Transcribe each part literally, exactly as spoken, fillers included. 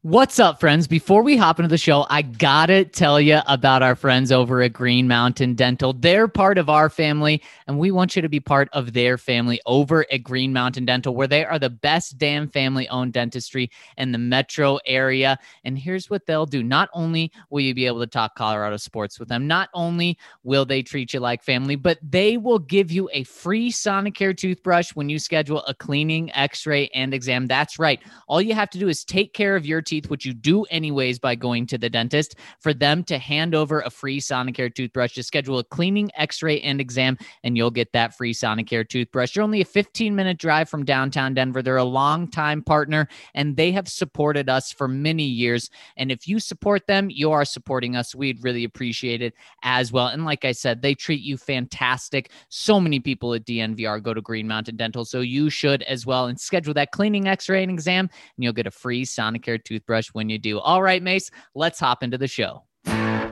What's up, friends? Before we hop into the show, I gotta tell you about our friends over at Green Mountain Dental. They're part of our family, and we want you to be part of their family over at Green Mountain Dental, where they are the best damn family-owned dentistry in the metro area. And here's what they'll do. Not only will you be able to talk Colorado sports with them, not only will they treat you like family, but they will give you a free Sonicare toothbrush when you schedule a cleaning, x-ray, and exam. That's right. All you have to do is take care of your teeth, which you do anyways by going to the dentist, for them to hand over a free Sonicare toothbrush. Just schedule a cleaning, x-ray, and exam, and you'll get that free Sonicare toothbrush. You're only a fifteen minute drive from downtown Denver. They're a longtime partner, and they have supported us for many years. And if you support them, you are supporting us. We'd really appreciate it as well. And like I said, they treat you fantastic. So many people at D N V R go to Green Mountain Dental, so you should as well. And schedule that cleaning, x-ray, and exam, and you'll get a free Sonicare toothbrush when you do. All right, Mace, let's hop into the show. Number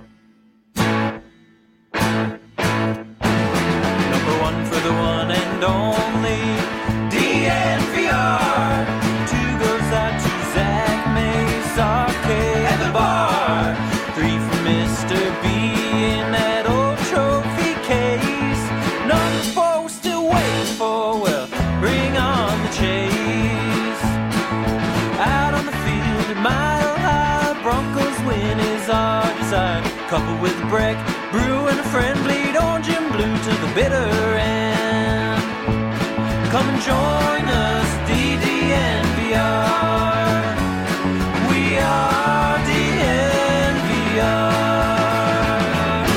one for the one and only D N V R. Two goes out to Zach Mace, Arcade, and the bar. Three for Mister B in that old trophy case. Number four, still waiting for, well, bring on the chase. Out on the field, mile high, Broncos win is our desire. Couple with Breck, Brew, and a friend, bleed orange and blue to the bitter end. Come and join us, D D N V R. We are D N V R.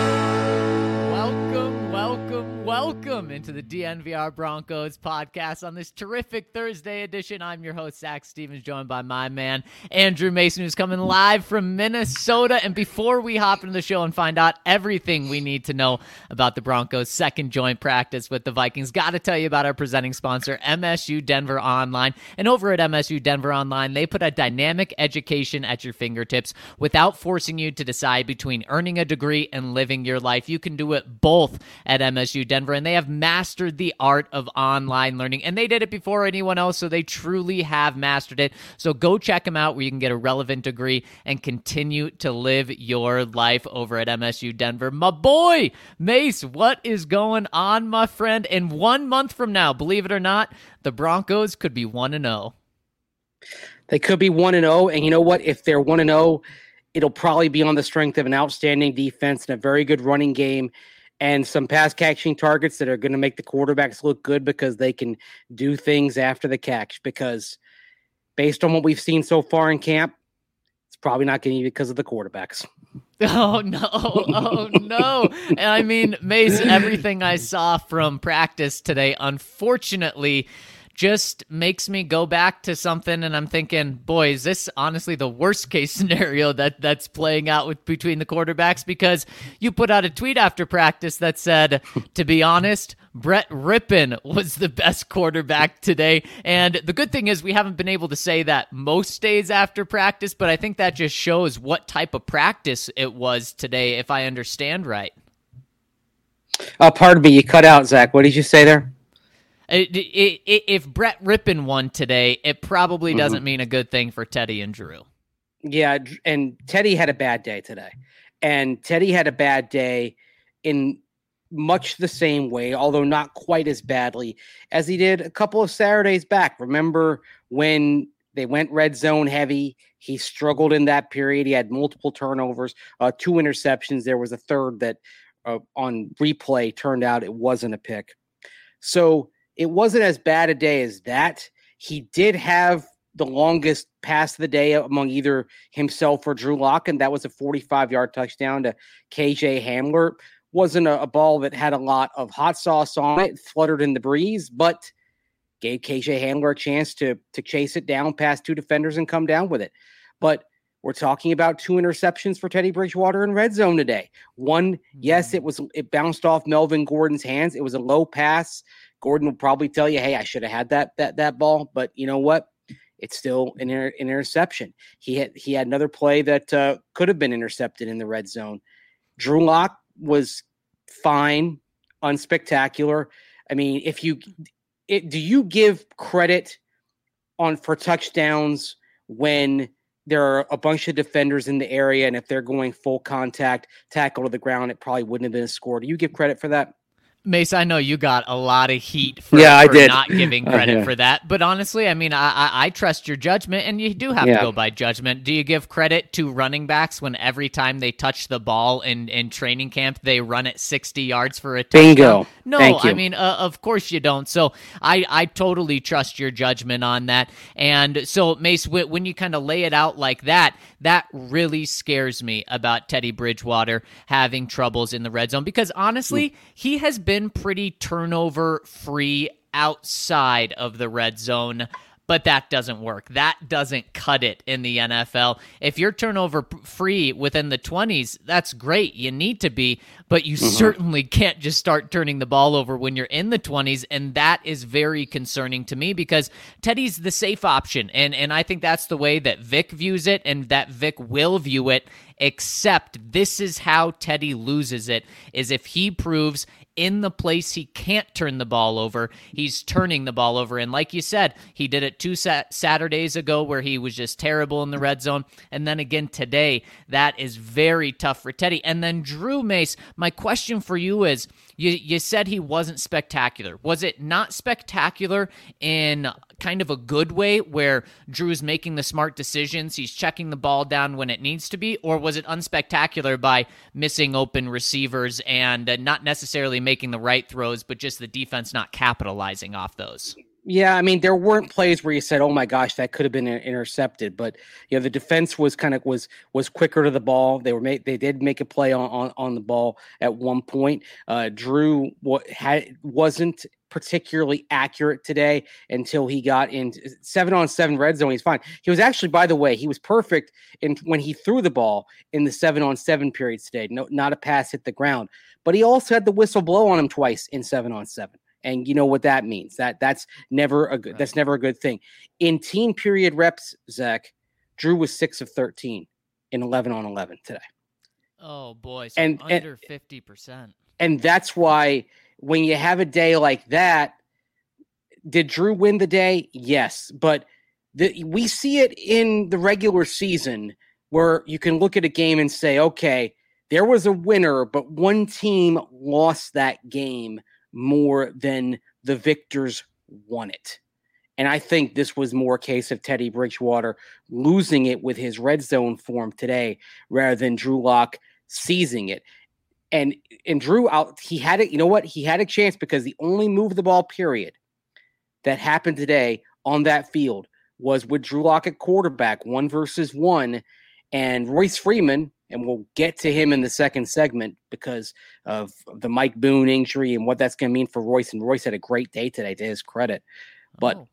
Welcome, welcome, welcome into the D N V R Broncos podcast on this terrific Thursday edition. I'm your host, Zach Stevens, joined by my man, Andrew Mason, who's coming live from Minnesota. And before we hop into the show and find out everything we need to know about the Broncos' second joint practice with the Vikings, got to tell you about our presenting sponsor, M S U Denver Online. And over at M S U Denver Online, they put a dynamic education at your fingertips without forcing you to decide between earning a degree and living your life. You can do it both at M S U Denver, and they have mastered the art of online learning, and they did it before anyone else, so they truly have mastered it. So go check them out where you can get a relevant degree and continue to live your life over at M S U Denver. My boy, Mace, what is going on, my friend? And one month from now, believe it or not, the Broncos could be one and oh. They could be one and oh, and you know what? If they're one and oh, it'll probably be on the strength of an outstanding defense and a very good running game, and some pass catching targets that are going to make the quarterbacks look good because they can do things after the catch. Because based on what we've seen so far in camp, it's probably not going to be because of the quarterbacks. Oh, no. Oh, no. And I mean, Mace, everything I saw from practice today, unfortunately, just makes me go back to something, and I'm thinking, boy, is this honestly the worst case scenario that that's playing out with between the quarterbacks? Because you put out a tweet after practice that said, to be honest, Brett Rypien was the best quarterback today. And the good thing is we haven't been able to say that most days after practice, but I think that just shows what type of practice it was today, if I understand right. Uh, pardon me, you cut out, Zach. What did you say there? It, it, it, if Brett Rypien won today, it probably doesn't mm-hmm. mean a good thing for Teddy and Drew. Yeah, and Teddy had a bad day today. And Teddy had a bad day in much the same way, although not quite as badly as he did a couple of Saturdays back. Remember when they went red zone heavy? He struggled in that period. He had multiple turnovers, uh, two interceptions. There was a third that uh, on replay turned out it wasn't a pick. So it wasn't as bad a day as that. He did have the longest pass of the day among either himself or Drew Lock, and that was a forty-five-yard touchdown to K J Hamler. Wasn't a, a ball that had a lot of hot sauce on it, fluttered in the breeze, but gave K J Hamler a chance to, to chase it down past two defenders and come down with it. But we're talking about two interceptions for Teddy Bridgewater in red zone today. One, mm-hmm. yes, it was it bounced off Melvin Gordon's hands. It was a low pass. Gordon will probably tell you, hey, I should have had that that that ball, but you know what? It's still an, inter- an interception. He had he had another play that uh, could have been intercepted in the red zone. Drew Lock was fine, unspectacular. I mean, if you it, do you give credit on for touchdowns when there are a bunch of defenders in the area, and if they're going full contact tackle to the ground, it probably wouldn't have been a score. Do you give credit for that? Mace, I know you got a lot of heat for, yeah, I for did. not giving credit uh, yeah. for that. But honestly, I mean, I, I, I trust your judgment, and you do have yeah. to go by judgment. Do you give credit to running backs when every time they touch the ball in, in training camp, they run it sixty yards for a touchdown? Bingo. No, Thank you. I mean, uh, of course you don't. So I, I totally trust your judgment on that. And so, Mace, when you kind of lay it out like that, that really scares me about Teddy Bridgewater having troubles in the red zone, because honestly, mm. he has been pretty turnover free outside of the red zone, but that doesn't work. That doesn't cut it in the N F L. If you're turnover free within the twenties, that's great. You need to be, but you mm-hmm. certainly can't just start turning the ball over when you're in the twenties, and that is very concerning to me because Teddy's the safe option, and, and I think that's the way that Vic views it and that Vic will view it, except this is how Teddy loses it, is if he proves in the place he can't turn the ball over, he's turning the ball over. And like you said, he did it two sat- Saturdays ago where he was just terrible in the red zone. And then again today, that is very tough for Teddy. And then Drew Mace, my question for you is, you, you said he wasn't spectacular. Was it not spectacular in kind of a good way where Drew's making the smart decisions, he's checking the ball down when it needs to be, or was it unspectacular by missing open receivers and uh, not necessarily making the right throws, but just the defense not capitalizing off those? Yeah, I mean, there weren't plays where you said, "Oh my gosh, that could have been intercepted," but you know, the defense was kind of was was quicker to the ball. They were made, they did make a play on on, on the ball at one point. Uh, Drew what had wasn't particularly accurate today until he got in seven on seven red zone. He's fine. He was actually, by the way, he was perfect in when he threw the ball in the seven on seven periods today. No, not a pass hit the ground, but he also had the whistle blow on him twice in seven on seven. And you know what that means. That that's never a good. That's never a good thing. In team period reps, Zach, Drew was six of thirteen in eleven on eleven today. Oh boy, so and under fifty percent. And that's why when you have a day like that, did Drew win the day? Yes, but the, we see it in the regular season where you can look at a game and say, okay, there was a winner, but one team lost that game more than the victors won it. And I think this was more a case of Teddy Bridgewater losing it with his red zone form today rather than Drew Lock seizing it. And and Drew out, he had it, you know what? He had a chance because the only move the ball period that happened today on that field was with Drew Lock at quarterback, one versus one, and Royce Freeman. And we'll get to him in the second segment because of the Mike Boone injury and what that's going to mean for Royce. And Royce had a great day today, to his credit. But oh.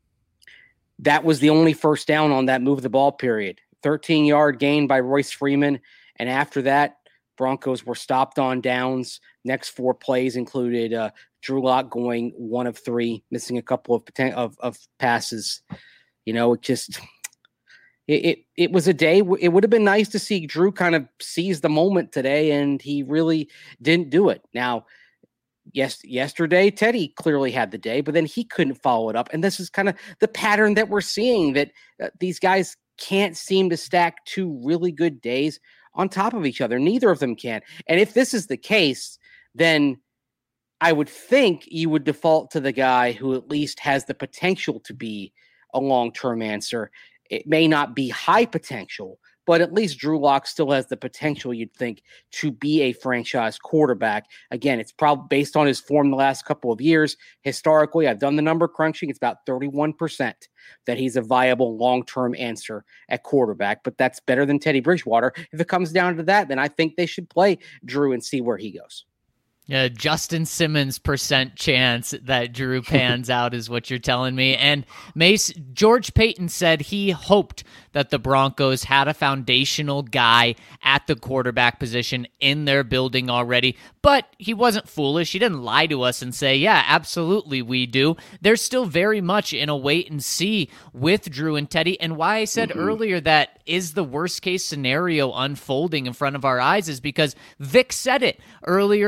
that was the only first down on that move the ball period. thirteen-yard gain by Royce Freeman. And after that, Broncos were stopped on downs. Next four plays included uh, Drew Lock going one of three, missing a couple of, poten- of, of passes. You know, it just... It, it it was a day. It would have been nice to see Drew kind of seize the moment today, and he really didn't do it. Now, yes, yesterday Teddy clearly had the day, but then he couldn't follow it up. And this is kind of the pattern that we're seeing, that uh, these guys can't seem to stack two really good days on top of each other. Neither of them can. And if this is the case, then I would think you would default to the guy who at least has the potential to be a long-term answer. It may not be high potential, but at least Drew Lock still has the potential, you'd think, to be a franchise quarterback. Again, it's probably based on his form the last couple of years. Historically, I've done the number crunching. It's about thirty-one percent that he's a viable long-term answer at quarterback, but that's better than Teddy Bridgewater. If it comes down to that, then I think they should play Drew and see where he goes. Yeah, Justin Simmons percent chance that Drew pans out is what you're telling me. And Mace, George Paton said he hoped that the Broncos had a foundational guy at the quarterback position in their building already, but he wasn't foolish. He didn't lie to us and say, yeah, absolutely we do. They're still very much in a wait and see with Drew and Teddy. And why I said mm-hmm. earlier that is the worst case scenario unfolding in front of our eyes is because Vic said it earlier. It, it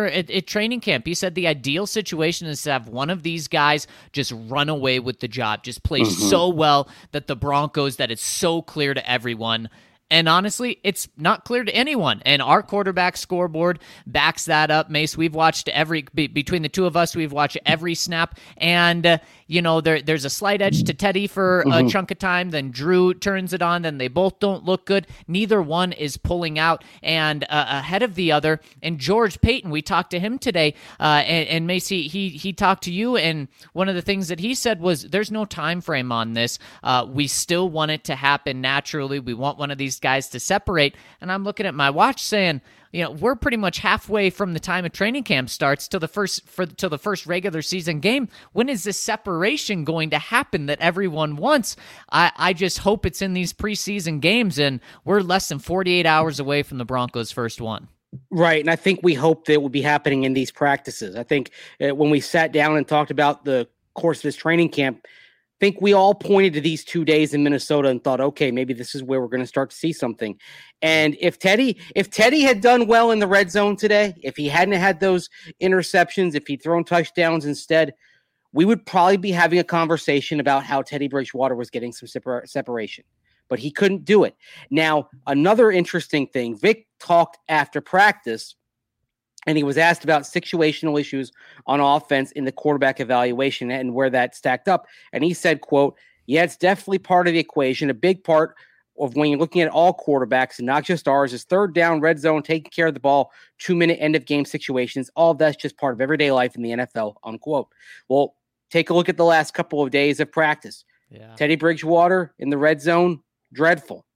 at training camp. He said the ideal situation is to have one of these guys just run away with the job, just play mm-hmm. so well that the Broncos, that it's so clear to everyone. And honestly, it's not clear to anyone. And our quarterback scoreboard backs that up. Mace, we've watched every, be, between the two of us, we've watched every snap. And, uh, you know, there, there's a slight edge to Teddy for mm-hmm. a chunk of time. Then Drew turns it on. Then they both don't look good. Neither one is pulling out and uh, ahead of the other. And George Paton, we talked to him today. Uh, and, and Macy, he, he talked to you. And one of the things that he said was, there's no time frame on this. Uh, we still want it to happen naturally. We want one of these guys to separate. And I'm looking at my watch saying, you know, we're pretty much halfway from the time of training camp starts till the first for till the first regular season game. When is this separation going to happen that everyone wants? I, I just hope it's in these preseason games, and we're less than forty-eight hours away from the Broncos' first one. Right, and I think we hope that it would be happening in these practices. I think uh, when we sat down and talked about the course of this training camp, I think we all pointed to these two days in Minnesota and thought, okay, maybe this is where we're going to start to see something. And if Teddy, if Teddy had done well in the red zone today, if he hadn't had those interceptions, if he'd thrown touchdowns instead, we would probably be having a conversation about how Teddy Bridgewater was getting some separ- separation. But he couldn't do it. Now, another interesting thing, Vic talked after practice, and he was asked about situational issues on offense in the quarterback evaluation and where that stacked up. And he said, quote, yeah, it's definitely part of the equation. A big part of when you're looking at all quarterbacks and not just ours is third down, red zone, taking care of the ball, two-minute end-of-game situations. All of that's just part of everyday life in the N F L, unquote. Well, take a look at the last couple of days of practice. Yeah. Teddy Bridgewater in the red zone, dreadful.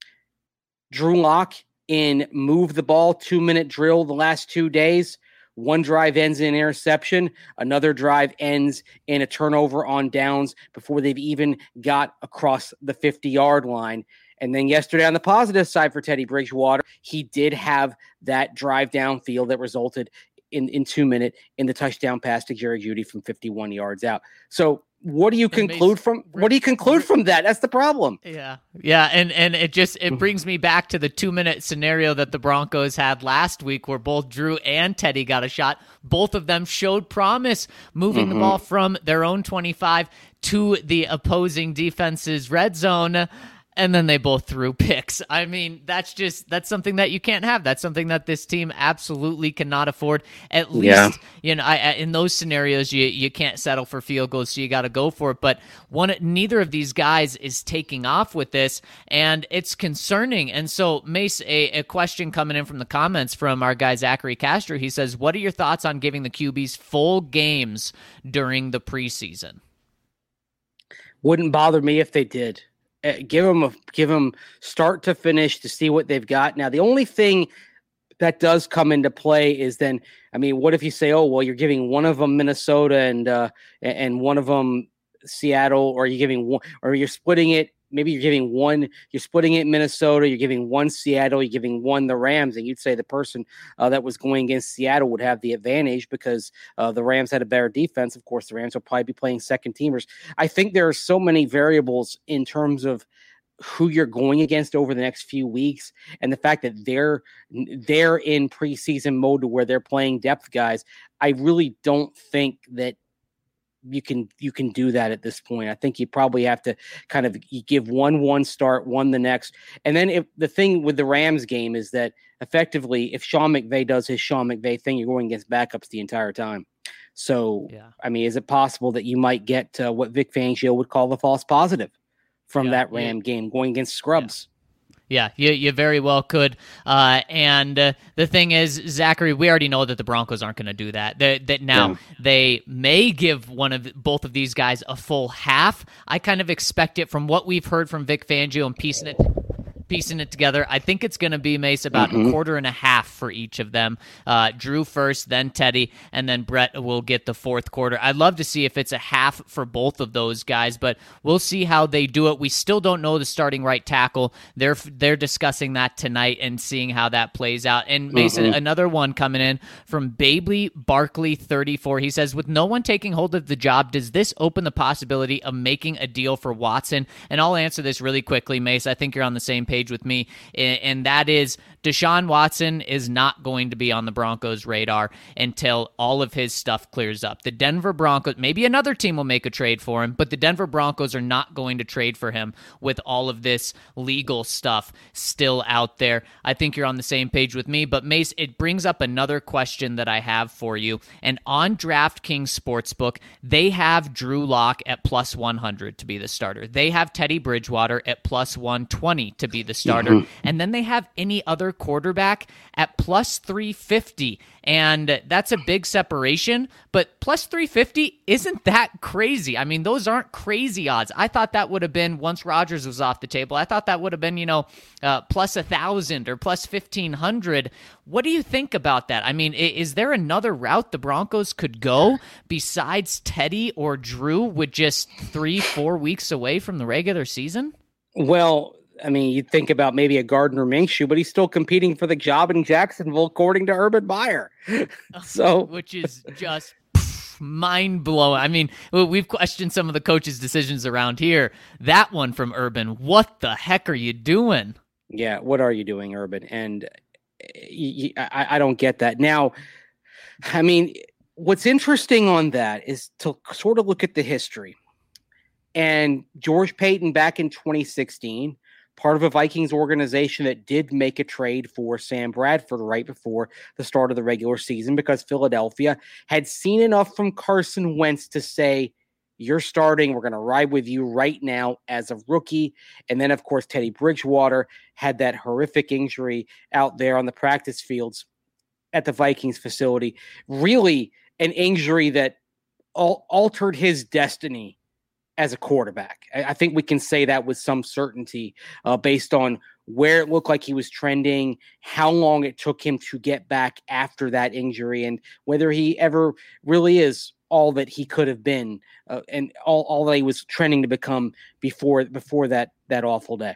Drew Lock in move the ball two-minute drill the last two days. One drive ends in an interception. Another drive ends in a turnover on downs before they've even got across the fifty-yard line. And then yesterday on the positive side for Teddy Bridgewater, he did have that drive downfield that resulted in, in two-minute in the touchdown pass to Jerry Jeudy from fifty-one yards out. So what do you conclude from what do you conclude from that? That's the problem. Yeah. Yeah. And and it just it brings me back to the two minute scenario that the Broncos had last week where both Drew and Teddy got a shot. Both of them showed promise moving mm-hmm. the ball from their own twenty-five to the opposing defense's red zone. And then they both threw picks. I mean, that's just, that's something that you can't have. That's something that this team absolutely cannot afford. At least, yeah. you know, I, I, in those scenarios, you you can't settle for field goals, so you got to go for it. But one, neither of these guys is taking off with this, and it's concerning. And so, Mace, a, a question coming in from the comments from our guy Zachary Castro. He says, what are your thoughts on giving the Q Bs full games during the preseason? Wouldn't bother me if they did. Give them a give them start to finish to see what they've got. Now, the only thing that does come into play is then, I mean, what if you say, oh, well, you're giving one of them Minnesota and uh, and one of them Seattle, or you're giving one, or you're splitting it. Maybe you're giving one, you're splitting it in Minnesota, you're giving one Seattle, you're giving one the Rams, and you'd say the person uh, that was going against Seattle would have the advantage because uh, the Rams had a better defense. Of course, the Rams will probably be playing second teamers. I think there are so many variables in terms of who you're going against over the next few weeks, and the fact that they're they're in preseason mode to where they're playing depth guys. I really don't think that you can you can do that at this point. I think you probably have to kind of you give one one start, one the next. And then if the thing with the Rams game is that effectively if Sean McVay does his Sean McVay thing, you're going against backups the entire time. So, yeah. I mean, is it possible that you might get uh, what Vic Fangio would call the false positive from yeah, that Ram yeah. game going against scrubs? Yeah. Yeah, you you very well could. Uh, and uh, the thing is, Zachary, we already know that the Broncos aren't going to do that. That, that now yeah. they may give one of both of these guys a full half. I kind of expect it from what we've heard from Vic Fangio and piecing it piecing it together. I think it's going to be, Mace, about mm-hmm. a quarter and a half for each of them. Uh, Drew first, then Teddy, and then Brett will get the fourth quarter. I'd love to see if it's a half for both of those guys, but we'll see how they do it. We still don't know the starting right tackle. They're they're discussing that tonight and seeing how that plays out. And Mason, mm-hmm. another one coming in from Babley Barkley thirty-four. He says, with no one taking hold of the job, does this open the possibility of making a deal for Watson? And I'll answer this really quickly, Mace. I think you're on the same page page with me, and that is Deshaun Watson is not going to be on the Broncos' radar until all of his stuff clears up. The Denver Broncos, maybe another team will make a trade for him, but the Denver Broncos are not going to trade for him with all of this legal stuff still out there. I think you're on the same page with me, but Mace, it brings up another question that I have for you. And on DraftKings Sportsbook, they have Drew Lock at plus one hundred to be the starter. They have Teddy Bridgewater at plus one twenty to be the starter. Mm-hmm. And then they have any other quarterback at plus three fifty. And that's a big separation, but plus three fifty isn't that crazy. I mean, those aren't crazy odds. I thought that would have been, once Rodgers was off the table, I thought that would have been, you know, uh, plus one thousand or plus fifteen hundred. What do you think about that? I mean, is there another route the Broncos could go besides Teddy or Drew with just three, four weeks away from the regular season? Well, I mean, you think about maybe a Gardner Minshew, but he's still competing for the job in Jacksonville, according to Urban Meyer. So, which is just mind blowing. I mean, we've questioned some of the coaches' decisions around here. That one from Urban, what the heck are you doing? Yeah, what are you doing, Urban? And I, I don't get that. Now, I mean, what's interesting on that is to sort of look at the history. And George Paton back in twenty sixteen, part of a Vikings organization that did make a trade for Sam Bradford right before the start of the regular season because Philadelphia had seen enough from Carson Wentz to say, you're starting, we're going to ride with you right now as a rookie. And then, of course, Teddy Bridgewater had that horrific injury out there on the practice fields at the Vikings facility. Really an injury that al- altered his destiny as a quarterback. I think we can say that with some certainty uh, based on where it looked like he was trending, how long it took him to get back after that injury, and whether he ever really is all that he could have been uh, and all, all that he was trending to become before before that, that awful day.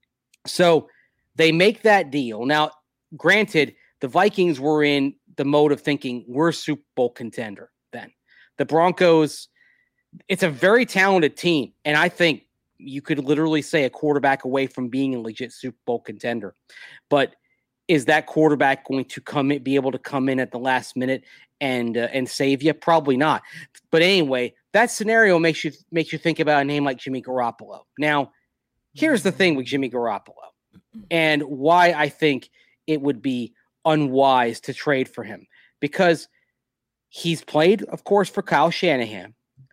So they make that deal. Now, granted, the Vikings were in the mode of thinking we're a Super Bowl contender then. The Broncos, it's a very talented team, and I think you could literally say a quarterback away from being a legit Super Bowl contender. But is that quarterback going to come in, be able to come in at the last minute and uh, and save you? Probably not. But anyway, that scenario makes you makes you think about a name like Jimmy Garoppolo. Now, here's the thing with Jimmy Garoppolo, and why I think it would be unwise to trade for him, because he's played, of course, for Kyle Shanahan.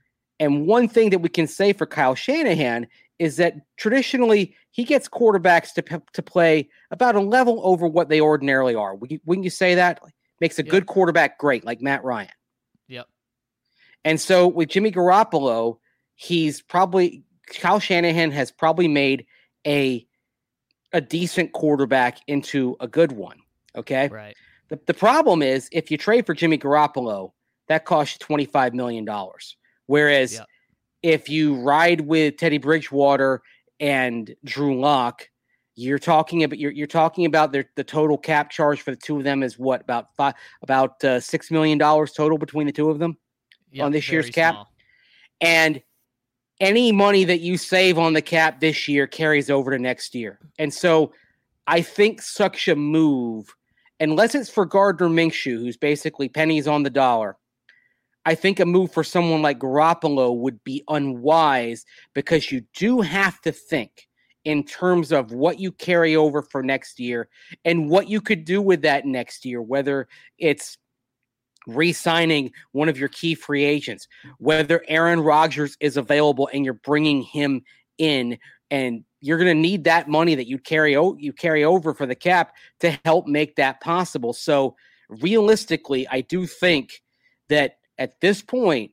And one thing that we can say for Kyle Shanahan is that traditionally he gets quarterbacks to to play about a level over what they ordinarily are. Wouldn't you say that? Makes a yep. good quarterback great, like Matt Ryan. Yep. And so with Jimmy Garoppolo, he's probably Kyle Shanahan has probably made a a decent quarterback into a good one. Okay. Right. The the problem is if you trade for Jimmy Garoppolo, that costs you twenty-five million dollars. Whereas yep. if you ride with Teddy Bridgewater and Drew Lock, you're talking about you're you're talking about their, the total cap charge for the two of them is what, about five about uh, six million dollars total between the two of them yep, on this year's cap. Small. And any money that you save on the cap this year carries over to next year. And so I think such a move, unless it's for Gardner Minshew, who's basically pennies on the dollar, I think a move for someone like Garoppolo would be unwise, because you do have to think in terms of what you carry over for next year and what you could do with that next year, whether it's re-signing one of your key free agents, whether Aaron Rodgers is available and you're bringing him in, and you're going to need that money that you carry, o- you carry over for the cap to help make that possible. So realistically, I do think that at this point,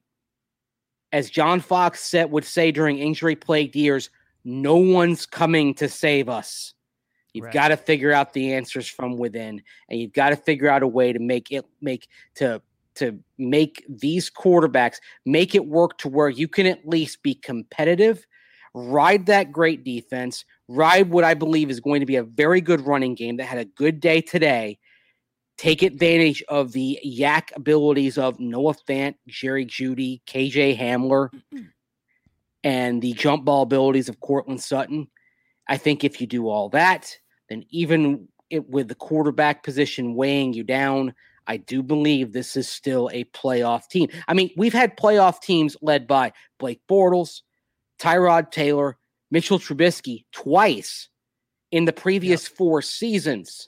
as John Fox said, would say during injury-plagued years, no one's coming to save us. You've right. got to figure out the answers from within, and you've got to figure out a way to make it make to to make these quarterbacks make it work to where you can at least be competitive, ride that great defense, ride what I believe is going to be a very good running game that had a good day today. Take advantage of the yak abilities of Noah Fant, Jerry Jeudy, K J Hamler, and the jump ball abilities of Cortland Sutton. I think if you do all that, then even it, with the quarterback position weighing you down, I do believe this is still a playoff team. I mean, we've had playoff teams led by Blake Bortles, Tyrod Taylor, Mitchell Trubisky twice in the previous yep. four seasons.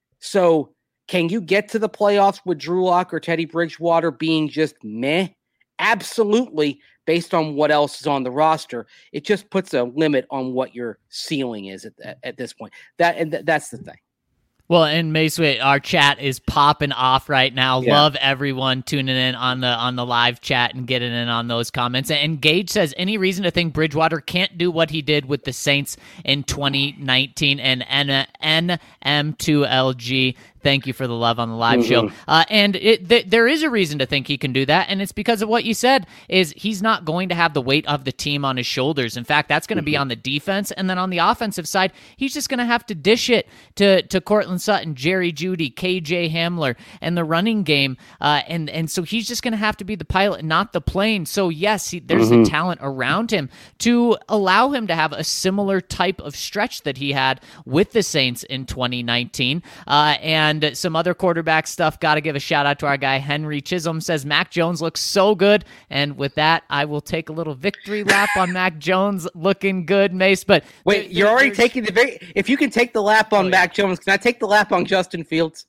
So can you get to the playoffs with Drew Lock or Teddy Bridgewater being just meh? Absolutely, based on what else is on the roster. It just puts a limit on what your ceiling is at, at, at this point. That and th- that's the thing. Well, and Mace, our chat is popping off right now. Yeah. Love everyone tuning in on the on the live chat and getting in on those comments. And Gage says, any reason to think Bridgewater can't do what he did with the Saints in twenty nineteen? And N M two L G, thank you for the love on the live mm-hmm. show. Uh, and it, th- there is a reason to think he can do that, and it's because of what you said, is he's not going to have the weight of the team on his shoulders. In fact, that's going to mm-hmm. be on the defense, and then on the offensive side, he's just going to have to dish it to, to Cortland Sutton, Jerry Jeudy, K J Hamler, and the running game, uh, and, and so he's just going to have to be the pilot, not the plane. So yes, he, there's mm-hmm. the talent around him to allow him to have a similar type of stretch that he had with the Saints in twenty nineteen, uh, and And some other quarterback stuff. Got to give a shout out to our guy Henry Chisholm. Says Mac Jones looks so good, and with that, I will take a little victory lap on Mac Jones looking good, Mace. But wait, there, you're there, already taking the very. If you can take the lap on oh, Mac yeah. Jones, can I take the lap on Justin Fields?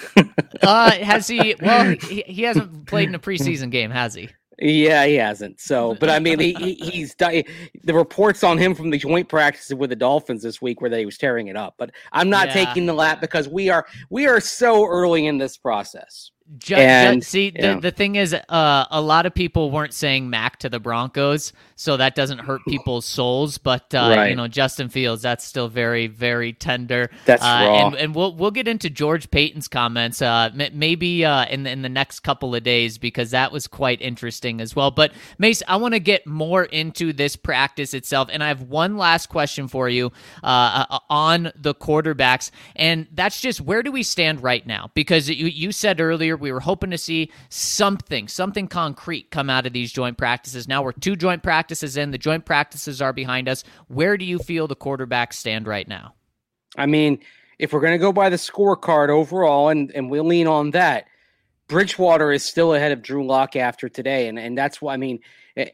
uh, has he? Well, he, he hasn't played in a preseason game, has he? Yeah, he hasn't. So, but I mean, he, he, he's the reports on him from the joint practices with the Dolphins this week where they was tearing it up. But I'm not yeah. taking the lap because we are we are so early in this process. Just, and, just, see, yeah. the, the thing is, uh, a lot of people weren't saying Mac to the Broncos, so that doesn't hurt people's souls. But uh, right. you know, Justin Fields, that's still very, very tender. That's uh, raw. And, and we'll we'll get into George Payton's comments uh, maybe uh, in the, in the next couple of days because that was quite interesting as well. But Mace, I want to get more into this practice itself, and I have one last question for you uh, on the quarterbacks, and that's just where do we stand right now? Because you you said earlier. We were hoping to see something, something concrete come out of these joint practices. Now we're two joint practices in. The joint practices are behind us. Where do you feel the quarterbacks stand right now? I mean, if we're going to go by the scorecard overall, and, and we'll lean on that, Bridgewater is still ahead of Drew Lock after today. And, and that's why, I mean,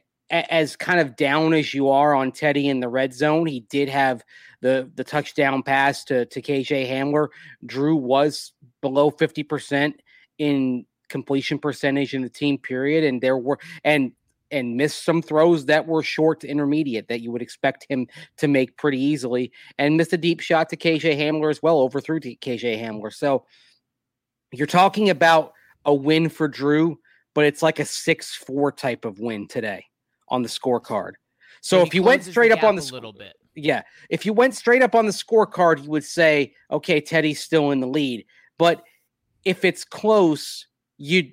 as kind of down as you are on Teddy in the red zone, he did have the, the touchdown pass to, to K J Hamler. Drew was below fifty percent in completion percentage in the team period, and there were and and missed some throws that were short to intermediate that you would expect him to make pretty easily, and missed a deep shot to K J Hamler as well, overthrew to K J Hamler. So you're talking about a win for Drew, but it's like a six four type of win today on the scorecard. So, so if you went straight up on the a little bit, yeah, if you went straight up on the scorecard, you would say, okay, Teddy's still in the lead, but if it's close, you,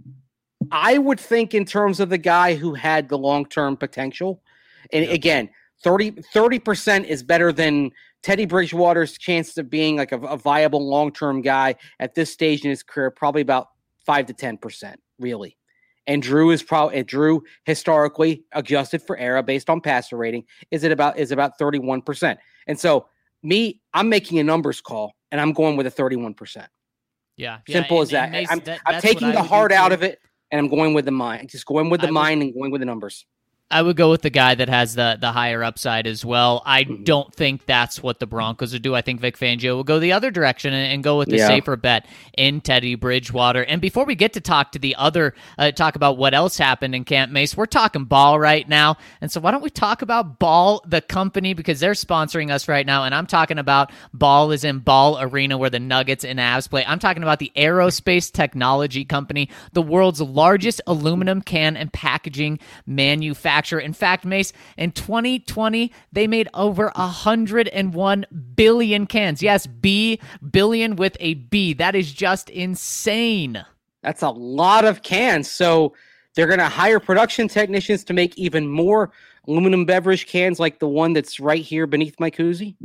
I would think in terms of the guy who had the long-term potential. And yep. again, thirty percent is better than Teddy Bridgewater's chance of being like a, a viable long-term guy at this stage in his career, probably about five to ten percent, really. And Drew is probably Drew historically adjusted for era based on passer rating is it about is about thirty-one percent. And so me, I'm making a numbers call and I'm going with a thirty-one percent. Yeah, simple yeah, as that. Mace, I'm, that, I'm taking the heart out of it, and I'm going with the mind. Just going with the I mind would, and going with the numbers. I would go with the guy that has the the higher upside as well. I Mhm. don't think that's what the Broncos would do. I think Vic Fangio will go the other direction and, and go with the Yeah. safer bet in Teddy Bridgewater. And before we get to talk to the other, uh, talk about what else happened in Camp Mace, we're talking Ball right now. And so why don't we talk about Ball, the company, because they're sponsoring us right now. And I'm talking about Ball is in Ball Arena where the Nuggets and Avs play. I'm talking about the Aerospace Technology Company, the world's largest aluminum can and packaging manufacturer. In fact, Mace, in twenty twenty, they made over one hundred one billion cans. Yes, B, billion with a B. That is just insane. That's a lot of cans. So they're going to hire production technicians to make even more aluminum beverage cans like the one that's right here beneath my koozie.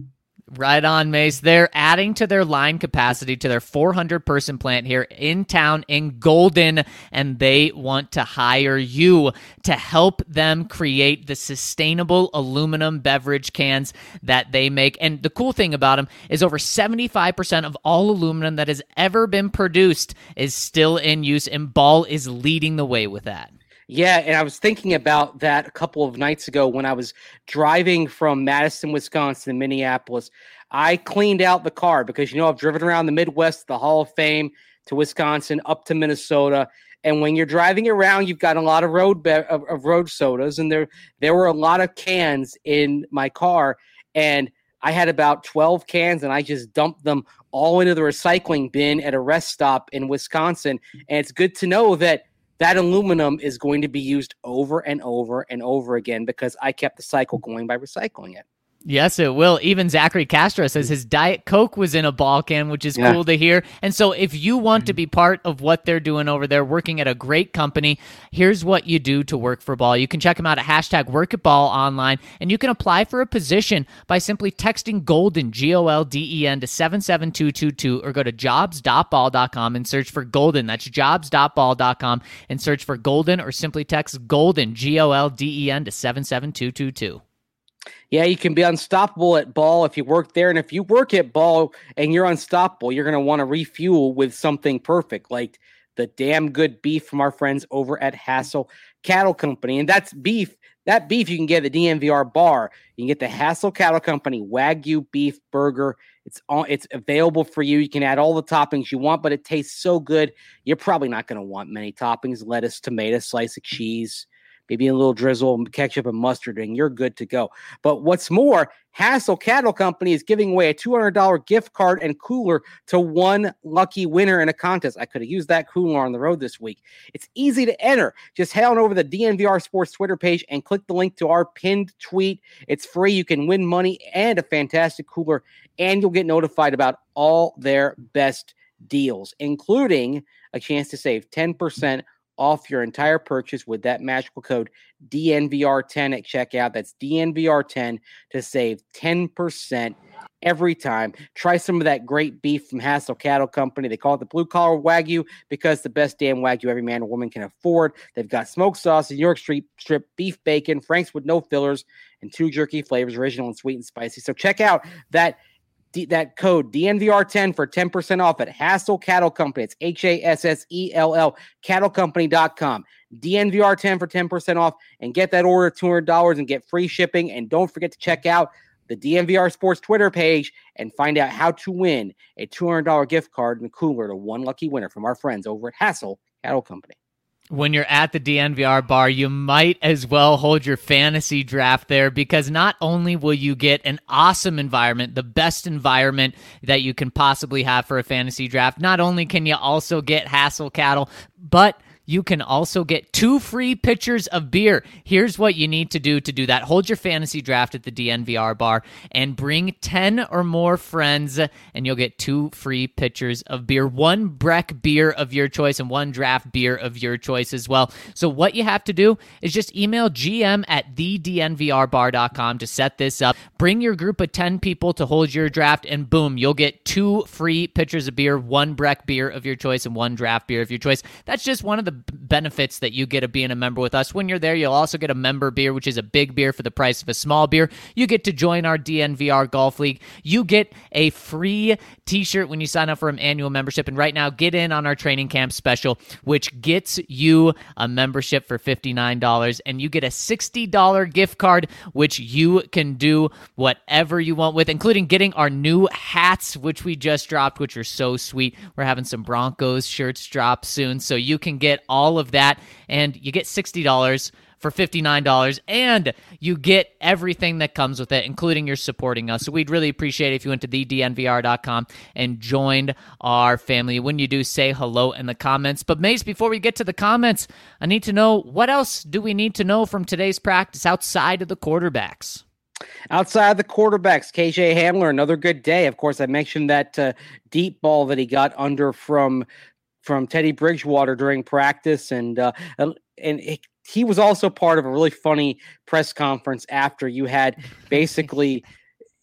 Right on, Mace. They're adding to their line capacity to their four hundred person plant here in town in Golden, and they want to hire you to help them create the sustainable aluminum beverage cans that they make. And the cool thing about them is over seventy-five percent of all aluminum that has ever been produced is still in use, and Ball is leading the way with that. Yeah, and I was thinking about that a couple of nights ago when I was driving from Madison, Wisconsin to Minneapolis. I cleaned out the car because, you know, I've driven around the Midwest, the Hall of Fame, to Wisconsin, up to Minnesota. And when you're driving around, you've got a lot of road be- of, of road sodas, and there there were a lot of cans in my car, and I had about twelve cans, and I just dumped them all into the recycling bin at a rest stop in Wisconsin. And it's good to know that that aluminum is going to be used over and over and over again because I kept the cycle going by recycling it. Yes, it will. Even Zachary Castro says his Diet Coke was in a ball can, which is yeah. cool to hear. And so if you want to be part of what they're doing over there, working at a great company, here's what you do to work for Ball. You can check them out at hashtag work at Ball online, and you can apply for a position by simply texting Golden, G O L D E N, to seven seven two two two, or go to jobs dot ball dot com and search for Golden. That's jobs dot ball dot com and search for Golden, or simply text Golden, G O L D E N, to seven seven two two two. Yeah, you can be unstoppable at Ball if you work there. And if you work at Ball and you're unstoppable, you're going to want to refuel with something perfect, like the damn good beef from our friends over at Hassel Cattle Company. And that's beef. That beef you can get at the D N V R bar. You can get the Hassel Cattle Company Wagyu beef burger. It's all, it's available for you. You can add all the toppings you want, but it tastes so good. You're probably not going to want many toppings: lettuce, tomato, slice of cheese, maybe a little drizzle, ketchup, and mustard, and you're good to go. But what's more, Hassel Cattle Company is giving away a two hundred dollars gift card and cooler to one lucky winner in a contest. I could have used that cooler on the road this week. It's easy to enter. Just head on over to the D N V R Sports Twitter page and click the link to our pinned tweet. It's free. You can win money and a fantastic cooler, and you'll get notified about all their best deals, including a chance to save ten percent off your entire purchase with that magical code D N V R ten at checkout. That's D N V R ten to save ten percent every time. Try some of that great beef from Hassel Cattle Company. They call it the blue collar Wagyu because the best damn Wagyu every man or woman can afford. They've got smoked sausage, New York Street strip, beef bacon, Frank's with no fillers, and two jerky flavors, original and sweet and spicy. So check out that D- that code D N V R ten for ten percent off at Hassel Cattle Company. It's H A S S E L L cattle company dot com. D N V R ten for ten percent off, and get that order two hundred dollars and get free shipping. And don't forget to check out the D N V R Sports Twitter page and find out how to win a two hundred dollars gift card and cooler to one lucky winner from our friends over at Hassel Cattle Company. When you're at the D N V R bar, you might as well hold your fantasy draft there, because not only will you get an awesome environment, the best environment that you can possibly have for a fantasy draft, not only can you also get Hassel Cattle, but you can also get two free pitchers of beer. Here's what you need to do to do that. Hold your fantasy draft at the D N V R bar and bring ten or more friends, and you'll get two free pitchers of beer, one Breck beer of your choice and one draft beer of your choice as well. So what you have to do is just email G M at the D N V R bar dot com to set this up. Bring your group of ten people to hold your draft, and boom, you'll get two free pitchers of beer, one Breck beer of your choice and one draft beer of your choice. That's just one of the benefits that you get of being a member with us. When you're there, you'll also get a member beer, which is a big beer for the price of a small beer. You get to join our D N V R Golf League. You get a free t-shirt when you sign up for an annual membership. And right now, get in on our training camp special, which gets you a membership for fifty-nine dollars, and you get a sixty dollars gift card, which you can do whatever you want with, including getting our new hats, which we just dropped, which are so sweet. We're having some Broncos shirts drop soon, so you can get all of that, and you get sixty dollars for fifty-nine dollars, and you get everything that comes with it, including your supporting us. So we'd really appreciate it if you went to the D N V R dot com and joined our family. When you do, say hello in the comments. But Mace, before we get to the comments, I need to know, what else do we need to know from today's practice outside of the quarterbacks? Outside the quarterbacks, K J Hamler, another good day. Of course, I mentioned that uh, deep ball that he got under from from Teddy Bridgewater during practice, and uh, and it, he was also part of a really funny press conference after you had basically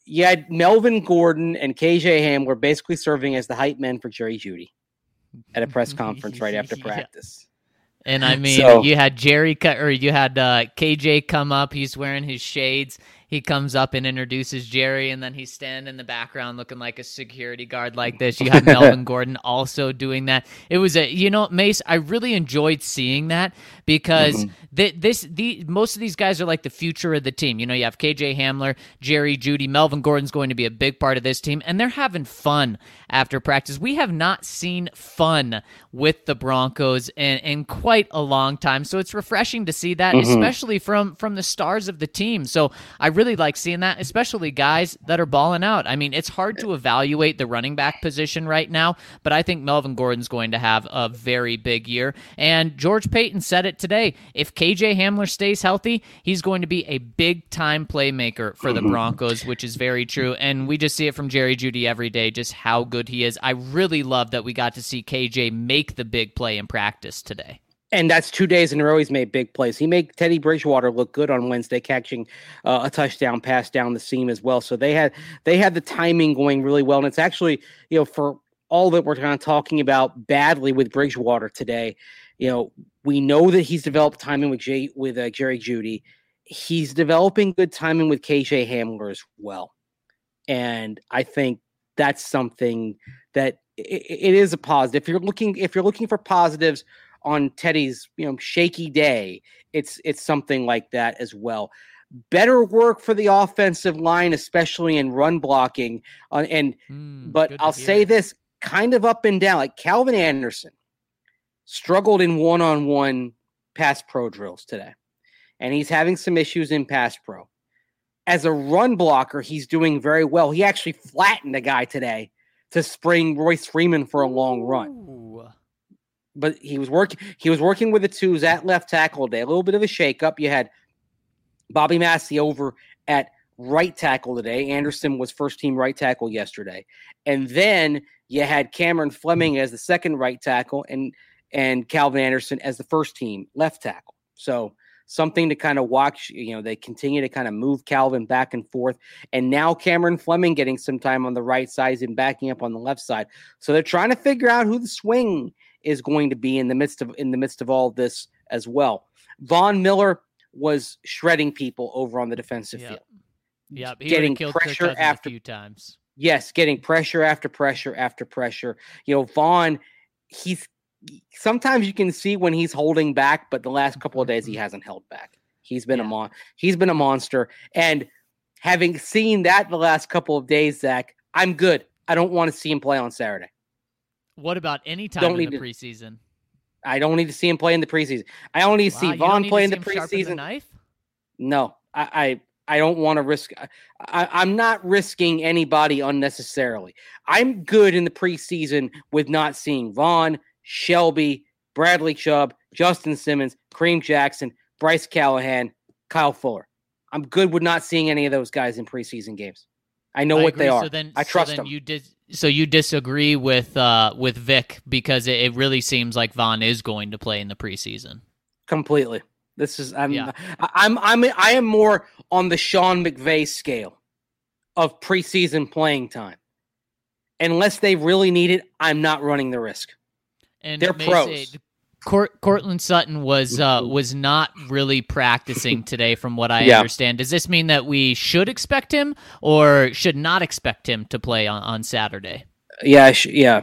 you had Melvin Gordon and K J Hamler basically serving as the hype men for Jerry Jeudy at a press conference right after practice. Yeah. And I mean, so, you had Jerry or you had uh, K J come up. He's wearing his shades. He comes up and introduces Jerry, and then he's standing in the background looking like a security guard like this. You had Melvin Gordon also doing that. It was a, you know, Mace, I really enjoyed seeing that because mm-hmm. th- this, the most of these guys are like the future of the team. You know, you have K J Hamler, Jerry Jeudy, Melvin Gordon's going to be a big part of this team, and they're having fun after practice. We have not seen fun with the Broncos in, in quite a long time, so it's refreshing to see that, mm-hmm. especially from, from the stars of the team. So I really like seeing that, especially guys that are balling out. I mean, it's hard to evaluate the running back position right now, but I think Melvin Gordon's going to have a very big year. And George Paton said it today. If K J Hamler stays healthy, he's going to be a big-time playmaker for the Broncos, which is very true. And we just see it from Jerry Jeudy every day, just how good he is. I really love that we got to see K J make the big play in practice today. And that's two days in a row he's made big plays. He made Teddy Bridgewater look good on Wednesday, catching uh, a touchdown pass down the seam as well. So they had they had the timing going really well. And it's actually, you know, for all that we're kind of talking about badly with Bridgewater today, you know, we know that he's developed timing with Jay, with uh, Jerry Jeudy. He's developing good timing with K J Hamler as well. And I think that's something that it, it is a positive. If you're looking, if you're looking for positives on Teddy's, you know, shaky day, it's it's something like that as well. Better work for the offensive line, especially in run blocking. Uh, and mm, but I'll say this, kind of up and down. Like Calvin Anderson struggled in one-on-one pass pro drills today, and he's having some issues in pass pro. As a run blocker, he's doing very well. He actually flattened a guy today to spring Royce Freeman for a long run. Ooh. But he was working. He was working with the twos at left tackle today. A little bit of a shakeup. You had Bobby Massey over at right tackle today. Anderson was first team right tackle yesterday, and then you had Cameron Fleming as the second right tackle, and and Calvin Anderson as the first team left tackle. So something to kind of watch. You know, they continue to kind of move Calvin back and forth, and now Cameron Fleming getting some time on the right side and backing up on the left side. So they're trying to figure out who the swing is going to be in the midst of in the midst of all of this as well. Von Miller was shredding people over on the defensive yep. field. Yeah, getting pressure after a few times. Yes, getting pressure after pressure after pressure. You know, Von, he's sometimes you can see when he's holding back, but the last couple of days he hasn't held back. He's been yeah. a mon he's been a monster. And having seen that the last couple of days, Zach, I'm good. I don't want to see him play on Saturday. What about any time don't in the to, preseason? I don't need to see him play in the preseason. I only need to wow, see Von play in the preseason. The knife? No, I, I I don't want to risk. I, I'm not risking anybody unnecessarily. I'm good in the preseason with not seeing Von, Shelby, Bradley Chubb, Justin Simmons, Kareem Jackson, Bryce Callahan, Kyle Fuller. I'm good with not seeing any of those guys in preseason games. I know I what agree. they are. So then, I trust so then them. You did, so you disagree with uh, with Vic because it, it really seems like Von is going to play in the preseason. Completely. This is I'm yeah. I'm I'm I am more on the Sean McVay scale of preseason playing time. Unless they really need it, I'm not running the risk. And they're pros. Say, Court, Cortland Sutton was uh, was not really practicing today, from what I yeah. understand. Does this mean that we should expect him or should not expect him to play on, on Saturday? Yeah, sh- yeah,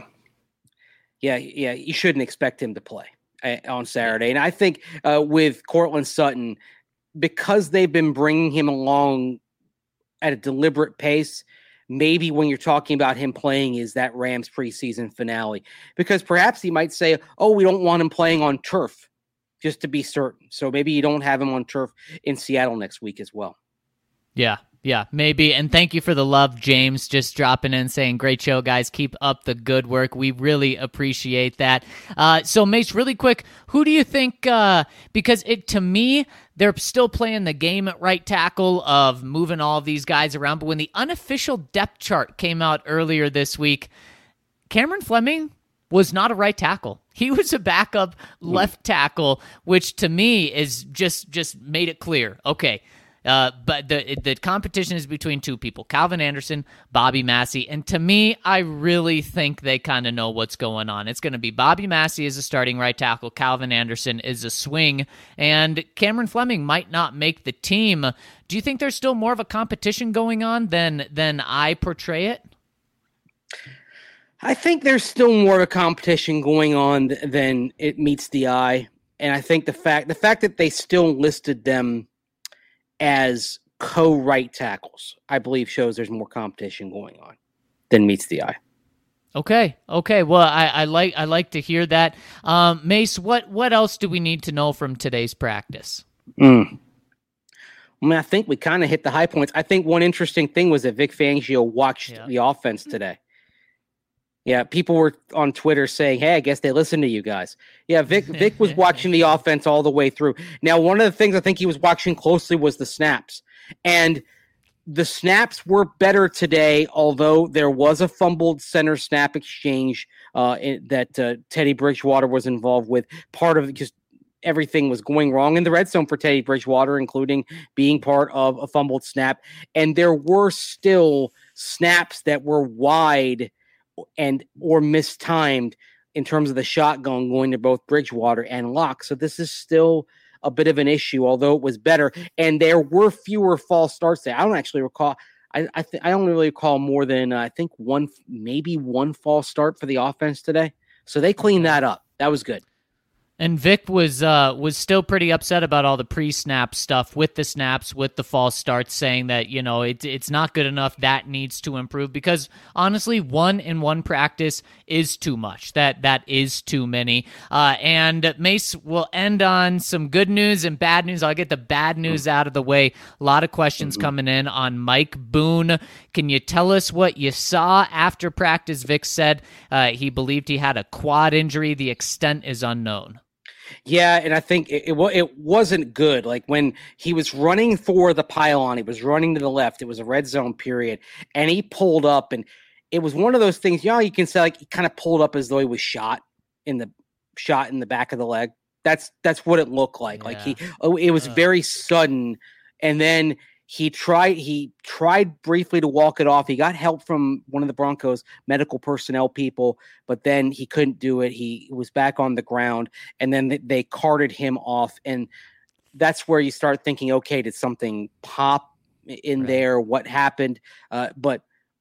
yeah, yeah. You shouldn't expect him to play uh, on Saturday. And I think uh, with Cortland Sutton, because they've been bringing him along at a deliberate pace, maybe when you're talking about him playing is that Rams preseason finale, because perhaps he might say, oh, we don't want him playing on turf just to be certain. So maybe you don't have him on turf in Seattle next week as well. Yeah, yeah, maybe. And thank you for the love, James, just dropping in saying, great show, guys. Keep up the good work. We really appreciate that. Uh, so, Mace, really quick, who do you think, uh, because it to me, they're still playing the game at right tackle of moving all of these guys around. But when the unofficial depth chart came out earlier this week, Cameron Fleming was not a right tackle. He was a backup left tackle, which to me is just just made it clear. Okay, Uh, but the the competition is between two people, Calvin Anderson, Bobby Massey. And to me, I really think they kind of know what's going on. It's going to be Bobby Massey as a starting right tackle, Calvin Anderson is a swing, and Cameron Fleming might not make the team. Do you think there's still more of a competition going on than than I portray it? I think there's still more of a competition going on th- than it meets the eye. And I think the fact the fact that they still listed them as co-right tackles, I believe shows there's more competition going on than meets the eye. Okay. Okay. Well, I, I like I like to hear that. Um, Mace, what what else do we need to know from today's practice? Mm. I mean, I think we kind of hit the high points. I think one interesting thing was that Vic Fangio watched yeah. the offense today. Yeah, people were on Twitter saying, hey, I guess they listened to you guys. Yeah, Vic Vic was watching the offense all the way through. Now, one of the things I think he was watching closely was the snaps. And the snaps were better today, although there was a fumbled center snap exchange uh, in, that uh, Teddy Bridgewater was involved with. Part of it just everything was going wrong in the red zone for Teddy Bridgewater, including being part of a fumbled snap. And there were still snaps that were wide and or mistimed in terms of the shotgun going to both Bridgewater and Locke. So this is still a bit of an issue, although it was better. And there were fewer false starts there. I don't actually recall. I I, th- I don't really recall more than uh, I think one, maybe one false start for the offense today. So they cleaned that up. That was good. And Vic was uh, was still pretty upset about all the pre-snap stuff with the snaps, with the false starts, saying that, you know, it, it's not good enough. That needs to improve because, honestly, one in one practice is too much. That That is too many. Uh, and Mace will end on some good news and bad news. I'll get the bad news out of the way. A lot of questions coming in on Mike Boone. Can you tell us what you saw after practice? Vic said uh, he believed he had a quad injury. The extent is unknown. Yeah, and I think it, it it wasn't good. Like when he was running for the pylon, he was running to the left. It was a red zone period, and he pulled up, and it was one of those things. You know, you can say like he kind of pulled up as though he was shot in the shot in the back of the leg. That's that's what it looked like. Yeah. Like he, oh, it was uh. very sudden, and then he tried he tried briefly to walk it off. He got help from one of the Broncos medical personnel people, but then he couldn't do it. He was back on the ground, and then they carted him off. And that's where you start thinking, okay, did something pop in right. there? What happened? Uh, but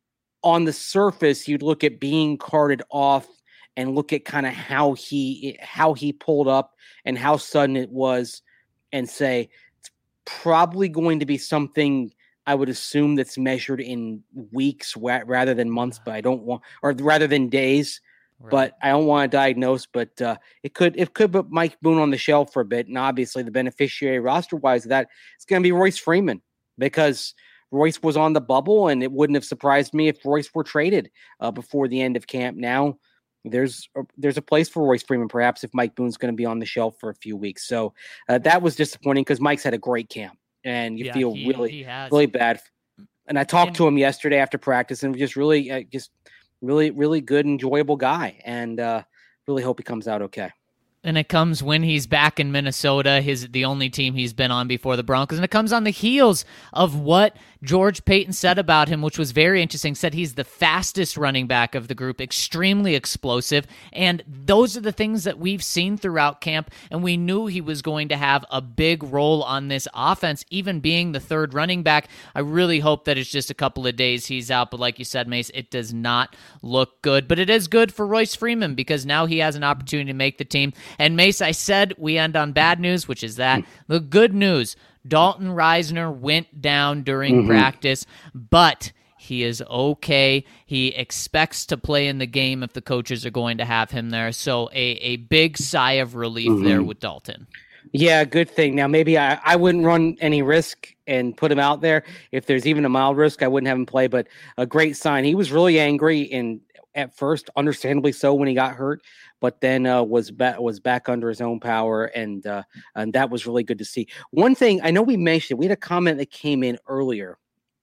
on the surface, you'd look at being carted off and look at kind of how he how he pulled up and how sudden it was, and say, probably going to be something I would assume that's measured in weeks wa- rather than months, but I don't want, or rather than days, right. but I don't want to diagnose, but uh, it could, it could put Mike Boone on the shelf for a bit. And obviously the beneficiary roster wise of that, it's going to be Royce Freeman, because Royce was on the bubble, and it wouldn't have surprised me if Royce were traded uh, before the end of camp. Now there's a, there's a place for Royce Freeman, perhaps, if Mike Boone's going to be on the shelf for a few weeks. So uh, that was disappointing because Mike's had a great camp, and you yeah, feel he, really, he really bad. And I talked and, to him yesterday after practice, and just really, uh, just really, really good, enjoyable guy, and uh, really hope he comes out okay. And it comes when he's back in Minnesota, his the only team he's been on before the Broncos. And it comes on the heels of what George Paton said about him, which was very interesting. Said he's the fastest running back of the group, extremely explosive. And those are the things that we've seen throughout camp. And we knew he was going to have a big role on this offense, even being the third running back. I really hope that it's just a couple of days he's out. But like you said, Mace, it does not look good. But it is good for Royce Freeman because now he has an opportunity to make the team. And Mace, I said we end on bad news, which is that. The good news, Dalton Risner went down during mm-hmm. practice, but he is okay. He expects to play in the game if the coaches are going to have him there. So a, a big sigh of relief mm-hmm. there with Dalton. Yeah, good thing. Now, maybe I, I wouldn't run any risk and put him out there. If there's even a mild risk, I wouldn't have him play, but a great sign. He was really angry, and at first, understandably so, when he got hurt, but then uh, was back was back under his own power, and uh, and that was really good to see. One thing I know we mentioned, we had a comment that came in earlier,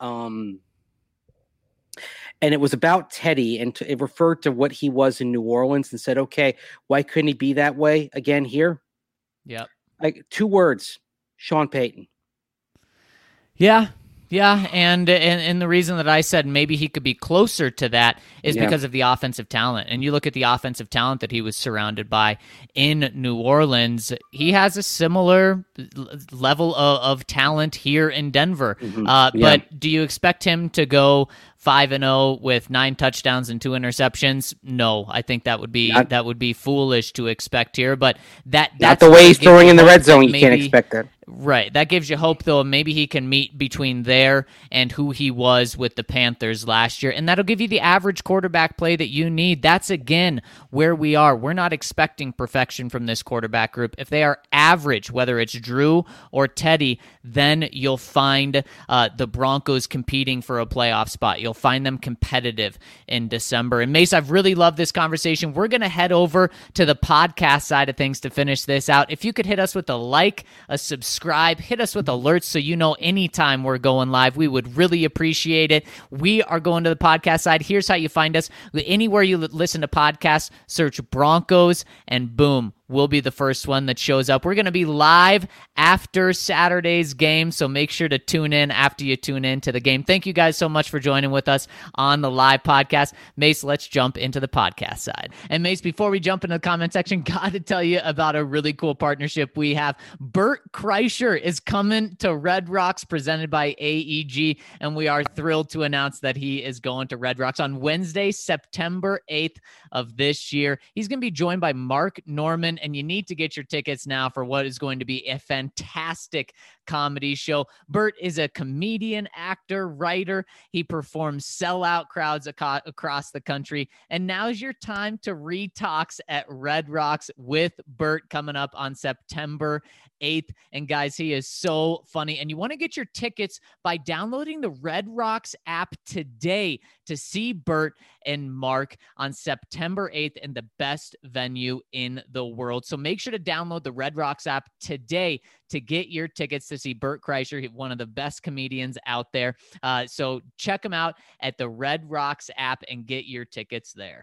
um, and it was about Teddy, and to, it referred to what he was in New Orleans, and said, "Okay, why couldn't he be that way again here?" Yep. Like two words: Sean Payton. Yeah. Yeah, and, and and the reason that I said maybe he could be closer to that is Yeah. because of the offensive talent. And you look at the offensive talent that he was surrounded by in New Orleans, he has a similar level of, of talent here in Denver. Mm-hmm. Uh, Yeah. But do you expect him to go five and zero with nine touchdowns and two interceptions? No, I think that would be Not- that would be foolish to expect here. But that Not that's the way what he's gives throwing you in the hope red that zone. You can't maybe- expect that. Right. That gives you hope, though. Maybe he can meet between there and who he was with the Panthers last year. And that'll give you the average quarterback play that you need. That's, again, where we are. We're not expecting perfection from this quarterback group. If they are average, whether it's Drew or Teddy, then you'll find uh, the Broncos competing for a playoff spot. You'll find them competitive in December. And Mace, I've really loved this conversation. We're going to head over to the podcast side of things to finish this out. If you could hit us with a like, a subscribe, hit us with alerts so you know anytime we're going live, we would really appreciate it. We are going to the podcast side. Here's how you find us. Anywhere you listen to podcasts, search Broncos, and boom, we'll be the first one that shows up. We're going to be live after Saturday's game, so make sure to tune in after you tune in to the game. Thank you guys so much for joining with us on the live podcast. Mace, let's jump into the podcast side. And Mace, before we jump into the comment section, got to tell you about a really cool partnership we have. Bert Kreischer is coming to Red Rocks presented by A E G, and we are thrilled to announce that he is going to Red Rocks on Wednesday, September eighth of this year. He's going to be joined by Mark Norman, and you need to get your tickets now for what is going to be a fantastic comedy show. Bert is a comedian, actor, writer. He performs sellout crowds aco- across the country. And now's your time to retox at Red Rocks with Bert coming up on September eighth. And guys, he is so funny. And you want to get your tickets by downloading the Red Rocks app today to see Bert and Mark on September eighth in the best venue in the world. So make sure to download the Red Rocks app today to get your tickets to see Bert Kreischer, one of the best comedians out there. Uh, so check him out at the Red Rocks app and get your tickets there.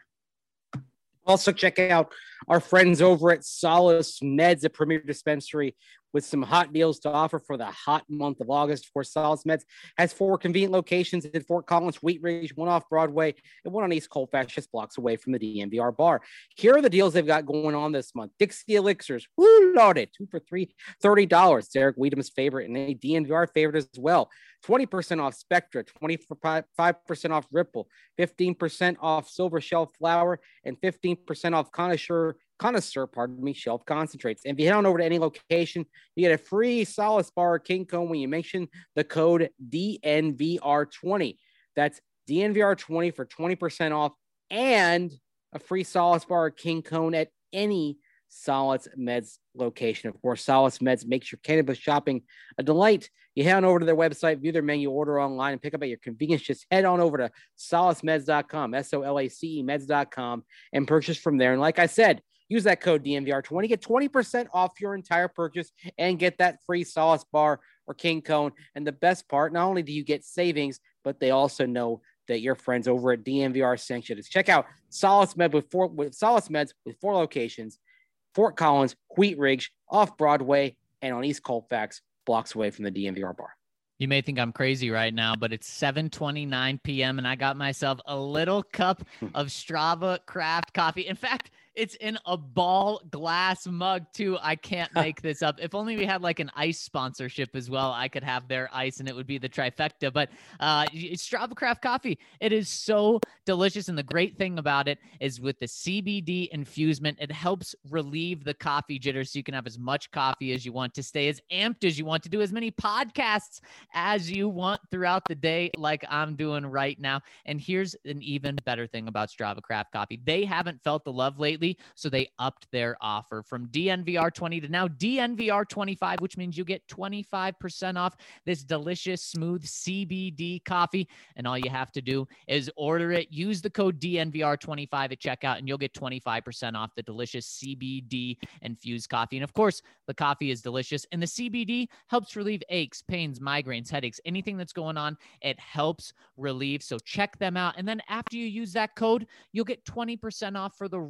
Also, check out our friends over at Solace Meds, a premier dispensary with some hot deals to offer for the hot month of August. Of course, Solace Meds has four convenient locations in Fort Collins, Wheat Ridge, one off Broadway, and one on East Colfax, just blocks away from the D N V R bar. Here are the deals they've got going on this month. Dixie Elixirs, woo, loaded, two for three, thirty dollars. Derek Weedham's favorite and a D N V R favorite as well. twenty percent off Spectra, twenty-five percent off Ripple, fifteen percent off Silver Shelf Flower, and fifteen percent off Connoisseur, Connoisseur, pardon me, Shelf Concentrates. And if you head on over to any location, you get a free Solace Bar or King Cone when you mention the code D N V R twenty. That's D N V R twenty for twenty percent off and a free Solace Bar or King Cone at any Solace Meds location. Of course, Solace Meds makes your cannabis shopping a delight. You head on over to their website, view their menu, order online, and pick up at your convenience. Just head on over to solace meds dot com, S O L A C E meds dot com, and purchase from there. And like I said, use that code D N V R twenty, get twenty percent off your entire purchase, and get that free Solace Bar or King Cone. And the best part, not only do you get savings, but they also know that your friends over at D N V R sent you. Check out Solace Med with four with Solace Meds with four locations: Fort Collins, Wheat Ridge, off Broadway, and on East Colfax, blocks away from the D N V R bar. You may think I'm crazy right now, but it's seven twenty-nine p.m. and I got myself a little cup of Strava craft coffee. In fact, it's in a ball glass mug too. I can't make this up. If only we had like an ice sponsorship as well, I could have their ice and it would be the trifecta. But uh, it's Strava craft coffee. It is so delicious. And the great thing about it is with the C B D infusement, it helps relieve the coffee jitters so you can have as much coffee as you want, to stay as amped as you want, to do as many podcasts as you want throughout the day, like I'm doing right now. And here's an even better thing about Strava craft coffee. They haven't felt the love lately, so they upped their offer from D N V R twenty to now D N V R twenty-five, which means you get twenty-five percent off this delicious, smooth C B D coffee. And all you have to do is order it. Use the code D N V R twenty-five at checkout, and you'll get twenty-five percent off the delicious C B D infused coffee. And of course, the coffee is delicious, and the C B D helps relieve aches, pains, migraines, headaches, anything that's going on. It helps relieve. So check them out. And then after you use that code, you'll get twenty percent off for the rest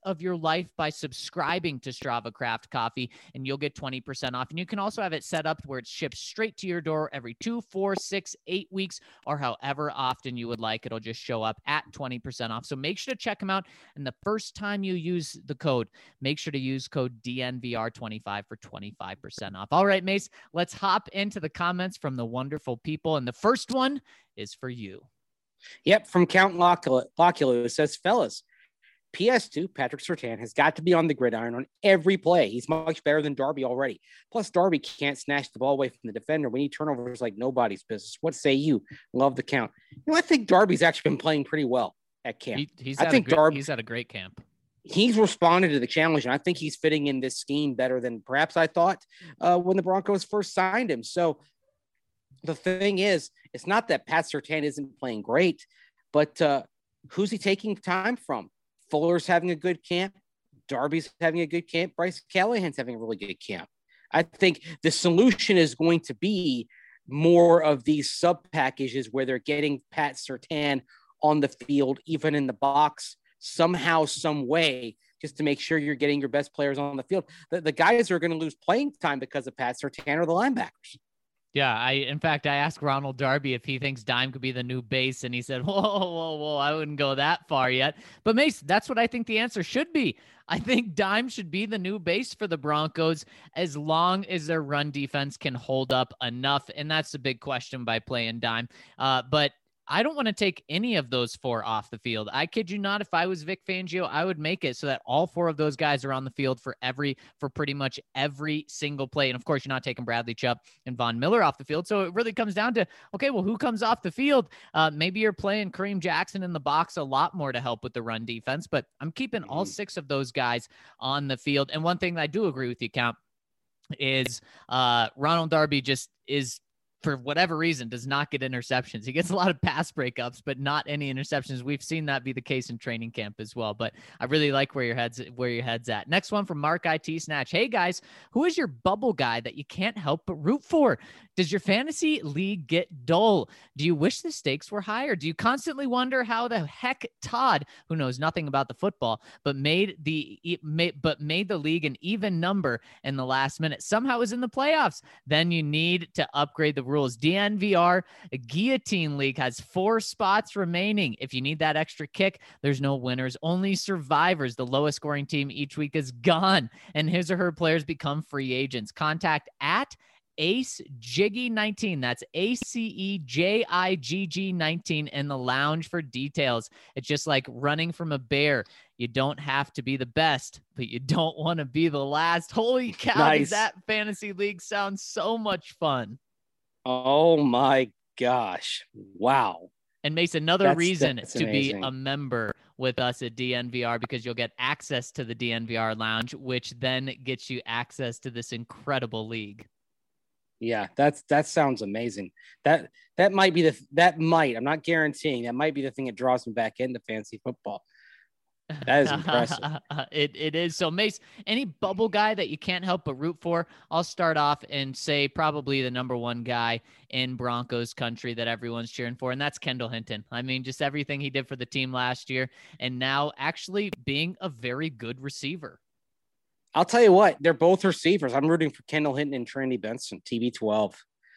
of your life by subscribing to Strava Craft Coffee, and you'll get twenty percent off. And you can also have it set up where it ships straight to your door every two, four, six, eight weeks, or however often you would like. It'll just show up at twenty percent off. So make sure to check them out. And the first time you use the code, make sure to use code D N V R twenty-five for twenty-five percent off. All right, Mace, let's hop into the comments from the wonderful people. And the first one is for you. Yep, from Count Locula, it says, fellas, P S two, Patrick Surtain has got to be on the gridiron on every play. He's much better than Darby already. Plus, Darby can't snatch the ball away from the defender. We need turnovers like nobody's business. What say you? Love the count. You know, I think Darby's actually been playing pretty well at camp. He, he's I think great, Darby, he's had a great camp. He's responded to the challenge, and I think he's fitting in this scheme better than perhaps I thought uh, when the Broncos first signed him. So the thing is, it's not that Pat Surtain isn't playing great, but uh, who's he taking time from? Fuller's having a good camp. Darby's having a good camp. Bryce Callahan's having a really good camp. I think the solution is going to be more of these sub packages where they're getting Pat Surtain on the field, even in the box, somehow, some way, just to make sure you're getting your best players on the field. The, the guys who are going to lose playing time because of Pat Surtain are the linebackers. Yeah, I in fact, I asked Ronald Darby if he thinks Dime could be the new base, and he said, whoa, whoa, whoa, I wouldn't go that far yet. But Mace, that's what I think the answer should be. I think Dime should be the new base for the Broncos as long as their run defense can hold up enough, and that's the big question by playing Dime. Uh, but I don't want to take any of those four off the field. I kid you not. If I was Vic Fangio, I would make it so that all four of those guys are on the field for every, for pretty much every single play. And of course, you're not taking Bradley Chubb and Von Miller off the field. So it really comes down to, okay, well, who comes off the field? Uh, maybe you're playing Kareem Jackson in the box a lot more to help with the run defense, but I'm keeping all six of those guys on the field. And one thing that I do agree with you, Count, is uh, Ronald Darby just is, for whatever reason, does not get interceptions. He gets a lot of pass breakups, but not any interceptions. We've seen that be the case in training camp as well, but I really like where your head's, where your head's at. Next one from Mark I T Snatch. Hey guys, who is your bubble guy that you can't help but root for? Does your fantasy league get dull? Do you wish the stakes were higher? Do you constantly wonder how the heck Todd, who knows nothing about the football, but made the, made, but made the league an even number in the last minute, somehow is in the playoffs? Then you need to upgrade the rules. D N V R Guillotine League has four spots remaining. If you need that extra kick, there's no winners, only survivors. The lowest scoring team each week is gone, and his or her players become free agents. Contact at Ace Jiggy nineteen. That's A C E J I G G nineteen in the lounge for details. It's just like running from a bear. You don't have to be the best, but you don't want to be the last. Holy cow, Nice. Does that fantasy league sound so much fun? Oh my gosh. Wow. And Mace, another That's- reason that's to amazing. be a member with us at D N V R, because you'll get access to the D N V R lounge, which then gets you access to this incredible league. Yeah, that's that sounds amazing. That that might be the that might, I'm not guaranteeing, that might be the thing that draws me back into fantasy football. That is impressive. it it is. So Mace, any bubble guy that you can't help but root for? I'll start off and say probably the number one guy in Broncos country that everyone's cheering for, and that's Kendall Hinton. I mean, just everything he did for the team last year, and now actually being a very good receiver. I'll tell you what, they're both receivers. I'm rooting for Kendall Hinton and Trinity Benson, T B twelve.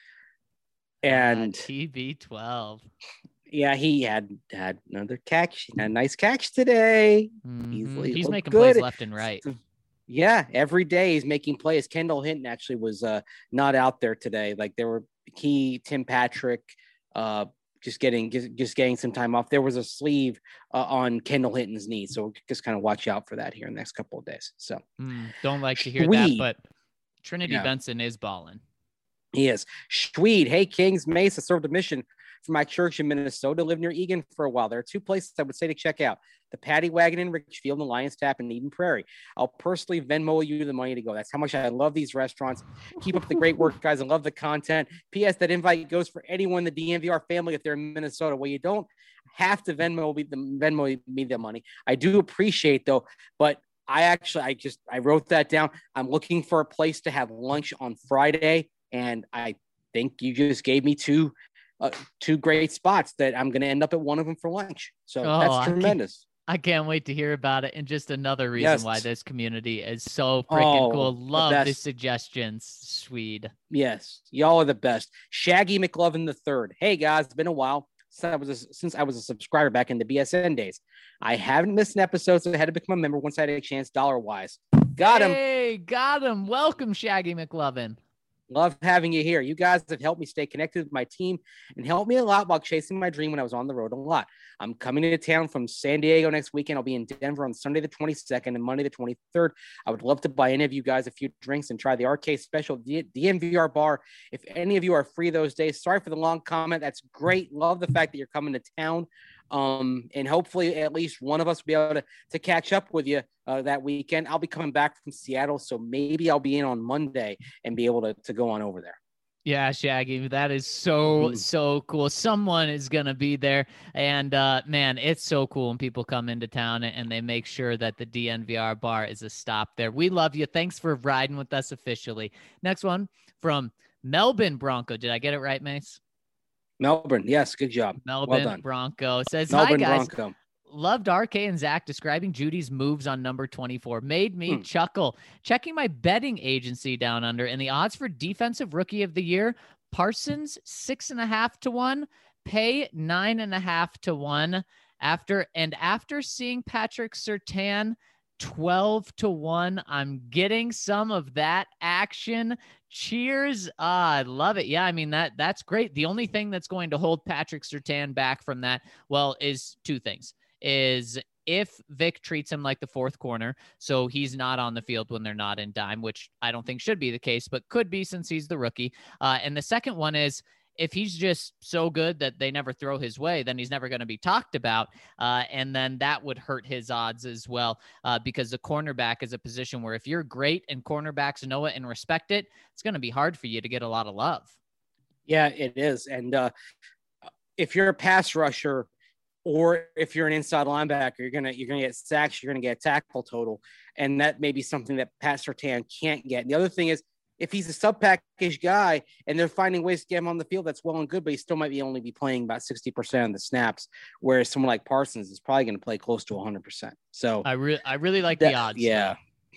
And uh, T B twelve. Yeah, he had had another catch, a nice catch today. Mm-hmm. He's, he's looked making good. plays left and right. Yeah, every day he's making plays. Kendall Hinton actually was uh, not out there today. Like there were he, Tim Patrick, uh, just getting just, just getting some time off. There was a sleeve uh, on Kendall Hinton's knee, so just kind of watch out for that here in the next couple of days. So mm, don't like to hear Sweet. that, but Trinity Yeah. Benson is balling. He is. Schweed, hey, Kings, Mace, I served a mission for my church in Minnesota, lived near Egan for a while. There are two places I would say to check out: the Paddy Wagon in Richfield and the Lion's Tap in Eden Prairie. I'll personally Venmo you the money to go. That's how much I love these restaurants. Keep up the great work, guys. I love the content. P S. That invite goes for anyone in the D N V R family if they're in Minnesota. Well, you don't have to Venmo me the, Venmo me the money. I do appreciate, though, but I actually, I just, I wrote that down. I'm looking for a place to have lunch on Friday, and I think you just gave me two, uh, two great spots that I'm going to end up at one of them for lunch. So Oh, I that's can't- tremendous. I can't wait to hear about it. And just another reason Yes. why this community is so freaking Oh, cool. the Love the best. suggestions, Swede. Yes, y'all are the best. Shaggy McLovin the third. Hey guys, it's been a while since I was a, since I was a subscriber back in the B S N days. I haven't missed an episode, so I had to become a member once I had a chance, dollar wise. Got him. Hey, got him. Welcome, Shaggy McLovin. Love having you here. You guys have helped me stay connected with my team and helped me a lot while chasing my dream when I was on the road a lot. I'm coming to town from San Diego next weekend. I'll be in Denver on Sunday the twenty-second and Monday the twenty-third. I would love to buy any of you guys a few drinks and try the arcade special, the D N V R bar. If any of you are free those days, sorry for the long comment. That's great. Love the fact that you're coming to town. Um, and hopefully at least one of us will be able to, to catch up with you uh, that weekend. I'll be coming back from Seattle, so maybe I'll be in on Monday and be able to, to go on over there. Yeah, Shaggy, that is so, mm-hmm. so cool. Someone is going to be there. And uh, man, it's so cool when people come into town and they make sure that the D N V R bar is a stop there. We love you. Thanks for riding with us officially. Next one from Melbourne Bronco. Did I get it right, Mace? Melbourne. Yes. Good job. Melbourne well done. Bronco says, Melbourne hi guys. Bronco. Loved R K and Zach describing Judy's moves on number twenty-four. Made me hmm. chuckle. Checking my betting agency down under and the odds for defensive rookie of the year, Parsons six and a half to one, Pay nine and a half to one. After and after seeing Patrick Surtain twelve to one, I'm getting some of that action. Cheers. Ah, I love it. Yeah, I mean, that that's great. The only thing that's going to hold Patrick Surtain back from that, well, is two things. Is if Vic treats him like the fourth corner, so he's not on the field when they're not in dime, which I don't think should be the case, but could be since he's the rookie. Uh, and the second one is if he's just so good that they never throw his way, then he's never going to be talked about. Uh, and then that would hurt his odds as well, uh, because the cornerback is a position where if you're great and cornerbacks know it and respect it, it's going to be hard for you to get a lot of love. Yeah, it is. And uh, if you're a pass rusher, or if you're an inside linebacker, you're gonna you're gonna get sacks, you're gonna get a tackle total, and that may be something that Pat Surtain can't get. And the other thing is, if he's a sub package guy and they're finding ways to get him on the field, that's well and good, but he still might be only be playing about sixty percent of the snaps, whereas someone like Parsons is probably going to play close to one hundred percent. So I really I really like that, the odds. Yeah,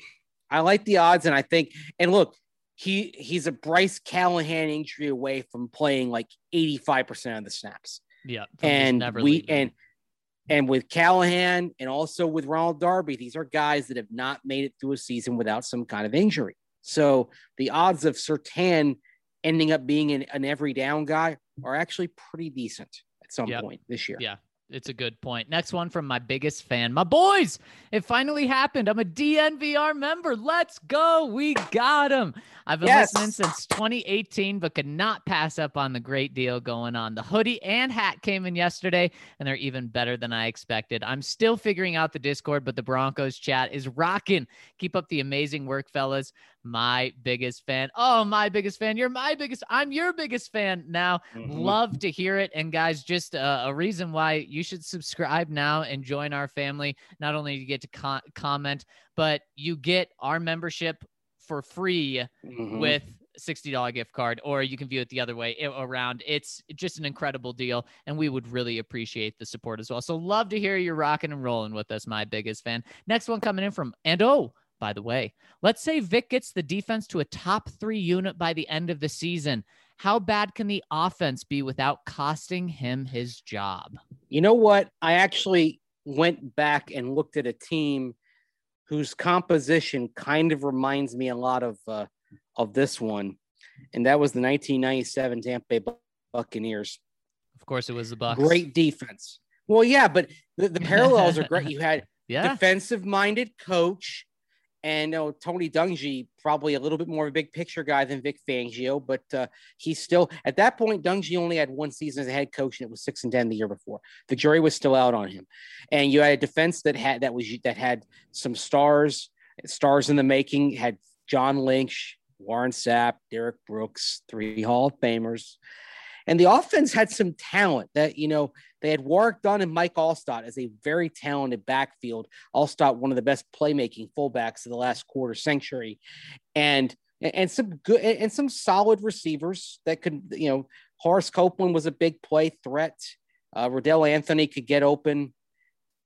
I like the odds, and I think and look. He he's a Bryce Callahan injury away from playing like eighty-five percent of the snaps. Yeah. And we leaving. and and with Callahan and also with Ronald Darby, these are guys that have not made it through a season without some kind of injury. So the odds of Surtain ending up being an, an every down guy are actually pretty decent at some yep. point this year. Yeah. It's a good point. Next one from my biggest fan, my boys. It finally happened. I'm a D N V R member. Let's go. We got him. I've been yes. listening since twenty eighteen, but could not pass up on the great deal going on. The hoodie and hat came in yesterday, and they're even better than I expected. I'm still figuring out the Discord, but the Broncos chat is rocking. Keep up the amazing work, fellas. My biggest fan. Oh, my biggest fan. You're my biggest. I'm your biggest fan now. Mm-hmm. Love to hear it. And guys, just uh, a reason why you should subscribe now and join our family. Not only do you get to co- comment, but you get our membership for free mm-hmm. with sixty dollars gift card, or you can view it the other way around. It's just an incredible deal, and we would really appreciate the support as well. So love to hear you rocking and rolling with us, my biggest fan. Next one coming in from, and oh, by the way, let's say Vic gets the defense to a top three unit by the end of the season. How bad can the offense be without costing him his job? You know what? I actually went back and looked at a team whose composition kind of reminds me a lot of uh, of this one, and that was the nineteen ninety-seven Tampa Bay Buccaneers. Of course, it was the Bucs. Great defense. Well, yeah, but the, the parallels are great. You had yeah. defensive-minded coach. And you know, Tony Dungy, probably a little bit more of a big picture guy than Vic Fangio, but uh, he's still at that point. Dungy only had one season as a head coach, and it was six and ten the year before. The jury was still out on him, and you had a defense that had that was that had some stars, stars in the making. Had John Lynch, Warren Sapp, Derek Brooks, three Hall of Famers. And the offense had some talent that, you know, they had Warwick Dunn and Mike Allstott as a very talented backfield. Allstott, one of the best playmaking fullbacks of the last quarter century. And, and some good and some solid receivers that could, you know, Horace Copeland was a big play threat. Uh, Riddell Anthony could get open.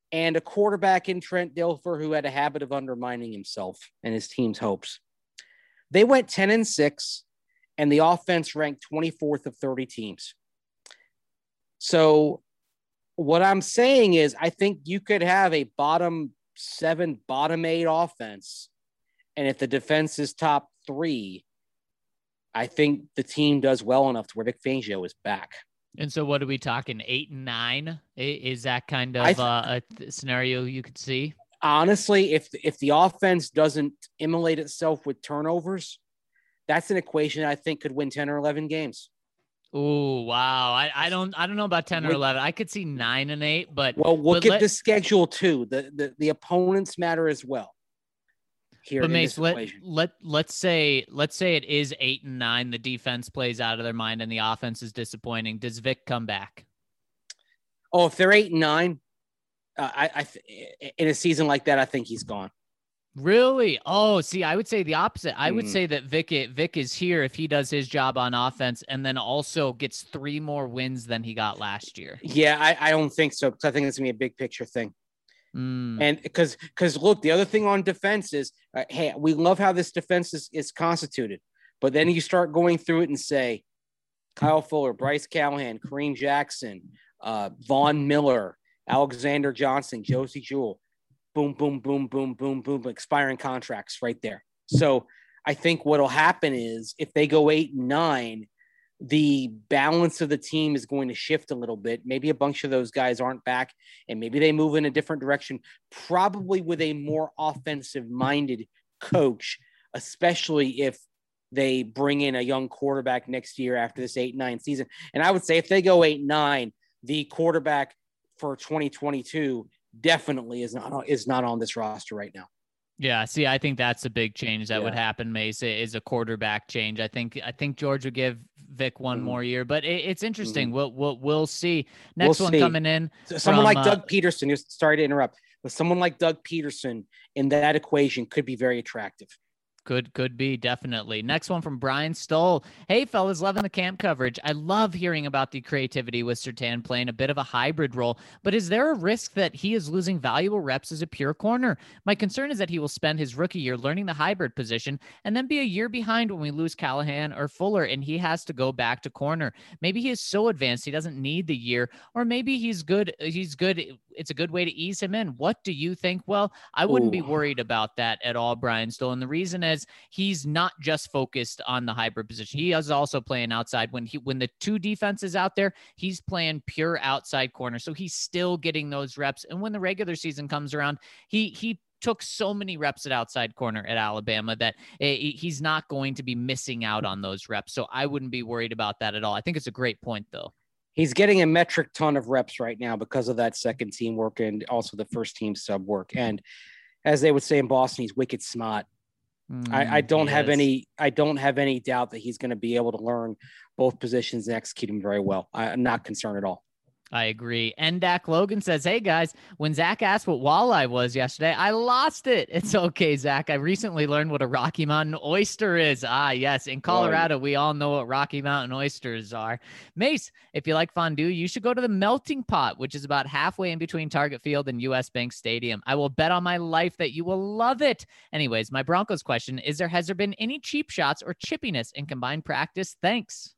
and a quarterback in Trent Dilfer who had a habit of undermining himself and his team's hopes. They went ten and six, and the offense ranked twenty-fourth of thirty teams. So what I'm saying is I think you could have a bottom seven, bottom eight offense, and if the defense is top three, I think the team does well enough to where Vic Fangio is back. And so what are we talking, eight and nine? Is that kind of th- uh, a th- scenario you could see? Honestly, if if the offense doesn't immolate itself with turnovers, that's an equation I think could win ten or eleven games. Oh, wow. I, I don't I don't know about ten or eleven. I could see nine and eight, but well, look but at let, the schedule too. The, the the opponents matter as well. Here but Mace, let, let let's say let's say it is eight and nine. The defense plays out of their mind and the offense is disappointing. Does Vic come back? Oh, if they're eight and nine, uh, I, I th- in a season like that, I think he's gone. Really? Oh, see, I would say the opposite. I would Mm. say that Vic Vic is here if he does his job on offense, and then also gets three more wins than he got last year. Yeah, I, I don't think so, because I think it's gonna be a big picture thing. Mm. And because because look, the other thing on defense is, uh, hey, we love how this defense is, is constituted, but then you start going through it and say, Kyle Fuller, Bryce Callahan, Kareem Jackson, uh, Von Miller, Alexander Johnson, Josie Jewell, boom, boom, boom, boom, boom, boom, expiring contracts right there. So I think what'll happen is if they go eight and nine, the balance of the team is going to shift a little bit. Maybe a bunch of those guys aren't back, and maybe they move in a different direction, probably with a more offensive-minded coach, especially if they bring in a young quarterback next year after this eight nine season. And I would say if they go eight nine, the quarterback for twenty twenty-two definitely is not is not on this roster right now. Yeah, see, I think that's a big change that Yeah. would happen, Mace, is a quarterback change. I think I think George would give Vic one mm. more year, but it, it's interesting. Mm. We'll, we'll we'll see. Next we'll one see. coming in. Someone from, like Doug uh, Peterson, sorry to interrupt, but someone like Doug Peterson in that equation could be very attractive. Could could be, definitely. Next one from Brian Stoll. Hey, fellas, loving the camp coverage. I love hearing about the creativity with Surtain playing a bit of a hybrid role, but is there a risk that he is losing valuable reps as a pure corner? My concern is that he will spend his rookie year learning the hybrid position and then be a year behind when we lose Callahan or Fuller and he has to go back to corner. Maybe he is so advanced he doesn't need the year, or maybe he's good. He's good. It's a good way to ease him in. What do you think? Well, I wouldn't Ooh. be worried about that at all, Brian Stoll. And the reason is he's not just focused on the hybrid position. He is also playing outside. When he when the two defenses out there, he's playing pure outside corner. So he's still getting those reps. And when the regular season comes around, he he took so many reps at outside corner at Alabama that he's not going to be missing out on those reps. So I wouldn't be worried about that at all. I think it's a great point, though. He's getting a metric ton of reps right now because of that second team work and also the first team sub work. And as they would say in Boston, he's wicked smart. Mm, I, I don't have is. any. I don't have any doubt that he's going to be able to learn both positions and execute them very well. I, I'm not concerned at all. I agree. And Dak Logan says, hey, guys, when Zach asked what walleye was yesterday, I lost it. It's okay, Zach. I recently learned what a Rocky Mountain oyster is. Ah, yes. In Colorado, right. We all know what Rocky Mountain oysters are. Mace, if you like fondue, you should go to the Melting Pot, which is about halfway in between Target Field and U S Bank Stadium. I will bet on my life that you will love it. Anyways, my Broncos question is there, has there been any cheap shots or chippiness in combined practice? Thanks.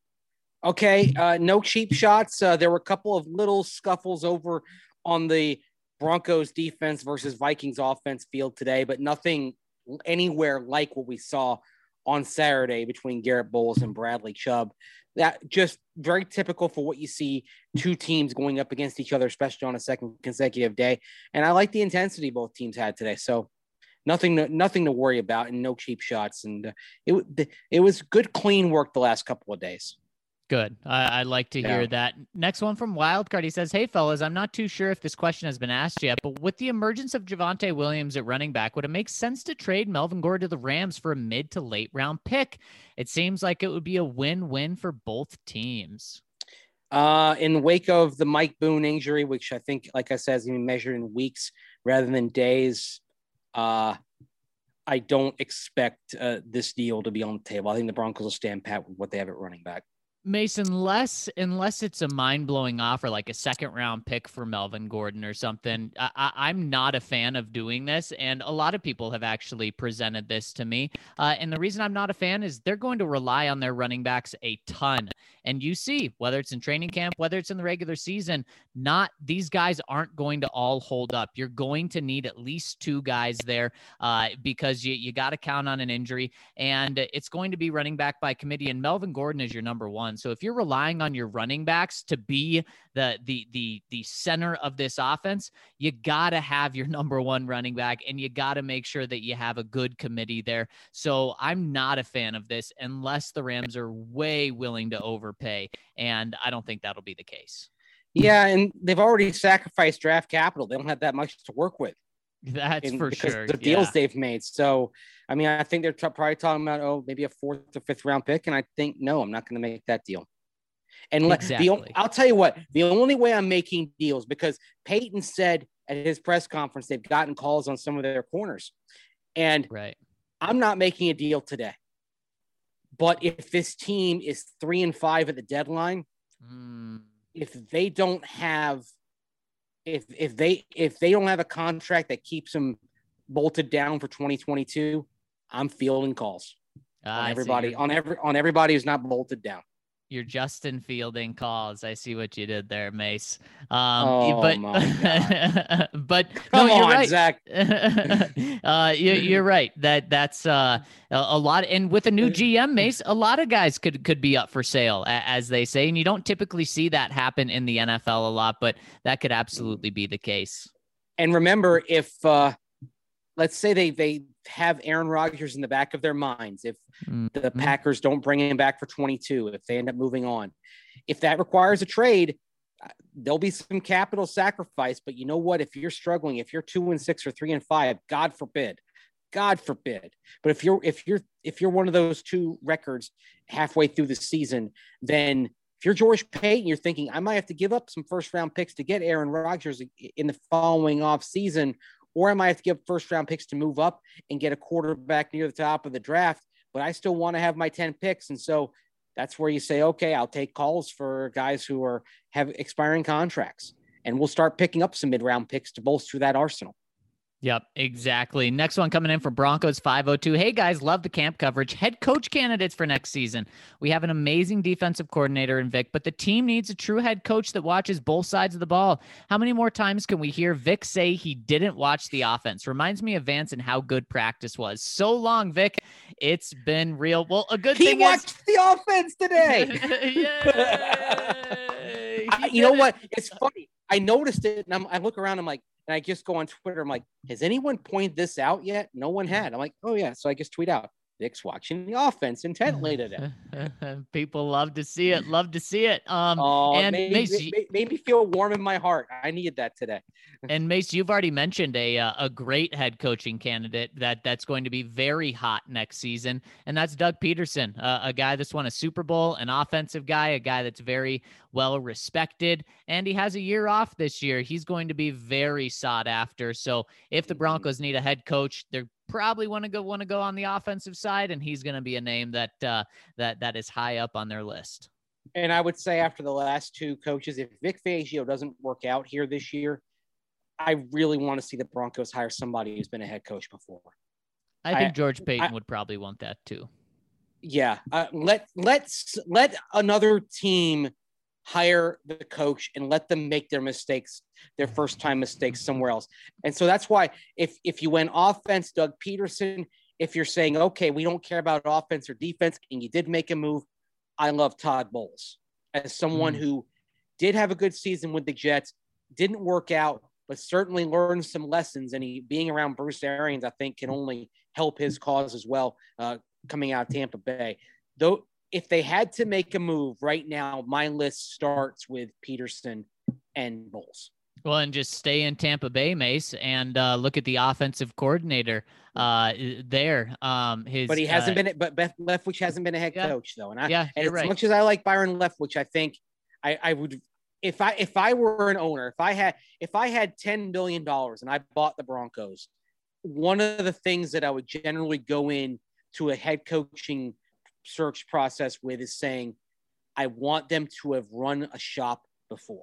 Okay, uh, no cheap shots. Uh, there were a couple of little scuffles over on the Broncos defense versus Vikings offense field today, but nothing anywhere like what we saw on Saturday between Garrett Bowles and Bradley Chubb. That just very typical for what you see two teams going up against each other, especially on a second consecutive day. And I like the intensity both teams had today. So nothing, to, nothing to worry about and no cheap shots. And uh, it, it was good, clean work the last couple of days. Good. I, I like to hear yeah. that. Next one from Wildcard. He says, hey, fellas, I'm not too sure if this question has been asked yet, but with the emergence of Javonte Williams at running back, would it make sense to trade Melvin Gordon to the Rams for a mid to late round pick? It seems like it would be a win-win for both teams. Uh, in the wake of the Mike Boone injury, which I think, like I said, is even measured in weeks rather than days, uh, I don't expect uh, this deal to be on the table. I think the Broncos will stand pat with what they have at running back. Mason, unless unless it's a mind-blowing offer like a second round pick for Melvin Gordon or something, I, I, I'm not a fan of doing this. And a lot of people have actually presented this to me. Uh, and the reason I'm not a fan is they're going to rely on their running backs a ton. And you see, whether it's in training camp, whether it's in the regular season, not these guys aren't going to all hold up. You're going to need at least two guys there uh, because you, you got to count on an injury. And it's going to be running back by committee. And Melvin Gordon is your number one. So if you're relying on your running backs to be the the the the center of this offense, you got to have your number one running back, and you got to make sure that you have a good committee there. So I'm not a fan of this unless the Rams are way willing to overpay, and I don't think that'll be the case. Yeah, and they've already sacrificed draft capital. They don't have that much to work with. That's in, for because sure. The deals yeah. they've made. So, I mean, I think they're t- probably talking about, oh, maybe a fourth or fifth round pick. And I think, no, I'm not going to make that deal. And let, exactly. the, I'll tell you what, the only way I'm making deals, because Peyton said at his press conference, they've gotten calls on some of their corners. And right. I'm not making a deal today. But if this team is three and five at the deadline, mm. if they don't have, if if they if they don't have a contract that keeps them bolted down for twenty twenty-two, I'm fielding calls ah, on everybody on every on everybody who's not bolted down. You're Justin fielding calls. I see what you did there, Mace. Um, oh but, my God. but Come no, you're on, right. Zach. uh, you, you're right. That that's uh, a, a lot. And with a new G M, Mace, a lot of guys could could be up for sale, as they say. And you don't typically see that happen in the N F L a lot, but that could absolutely be the case. And remember, if uh, let's say they they have Aaron Rodgers in the back of their minds, if mm-hmm. the Packers don't bring him back for twenty-two, if they end up moving on, if that requires a trade, there'll be some capital sacrifice. But you know what? If you're struggling, if you're two and six or three and five, God forbid, God forbid. But if you're if you're if you're one of those two records halfway through the season, then if you're George Payton, you're thinking, I might have to give up some first round picks to get Aaron Rodgers in the following off season. Or I might have to give first round picks to move up and get a quarterback near the top of the draft, but I still want to have my ten picks. And so that's where you say, okay, I'll take calls for guys who are have expiring contracts, and we'll start picking up some mid round picks to bolster that arsenal. Yep, exactly. Next one coming in from Broncos five oh two. Hey guys, love the camp coverage. Head coach candidates for next season. We have an amazing defensive coordinator in Vic, but the team needs a true head coach that watches both sides of the ball. How many more times can we hear Vic say he didn't watch the offense? Reminds me of Vance and how good practice was. So long, Vic. It's been real. Well, a good he thing watched is... the offense today. I, you know what? It's funny. I noticed it, and I'm, I look around. I'm like, and I just go on Twitter. I'm like, has anyone pointed this out yet? No one had. I'm like, oh yeah. So I just tweet out, Vic's watching the offense intently today. People love to see it. Love to see it. Um, oh, and made, Mace, made, made me feel warm in my heart. I needed that today. And Mace, you've already mentioned a uh, a great head coaching candidate that that's going to be very hot next season, and that's Doug Peterson, uh, a guy that's won a Super Bowl, an offensive guy, a guy that's very well respected, and he has a year off this year. He's going to be very sought after. So if the Broncos need a head coach, they're probably want to go want to go on the offensive side, and he's going to be a name that uh, that that is high up on their list. And I would say after the last two coaches, if Vic Fangio doesn't work out here this year, I really want to see the Broncos hire somebody who's been a head coach before. I think I, George Payton I, would probably want that too. Yeah, uh, let let's let another team hire the coach and let them make their mistakes, their first time mistakes somewhere else. And so that's why if if you went offense, Doug Peterson, if you're saying, okay, we don't care about offense or defense, and you did make a move, I love Todd Bowles as someone mm. who did have a good season with the Jets, didn't work out, but certainly learned some lessons. And he being around Bruce Arians, I think, can only help his cause as well, uh, coming out of Tampa Bay. Though, if they had to make a move right now, my list starts with Peterson and Bowles. Well, and just stay in Tampa Bay, Mace, and uh, look at the offensive coordinator uh, there. Um, his, but he hasn't uh, been, but Beth Leftwich hasn't been a head yeah. coach though. And I, yeah, and as right. much as I like Byron Leftwich, I think I, I would, if I, if I were an owner, if I had, if I had ten billion dollars and I bought the Broncos, one of the things that I would generally go in to a head coaching search process with is saying, I want them to have run a shop before.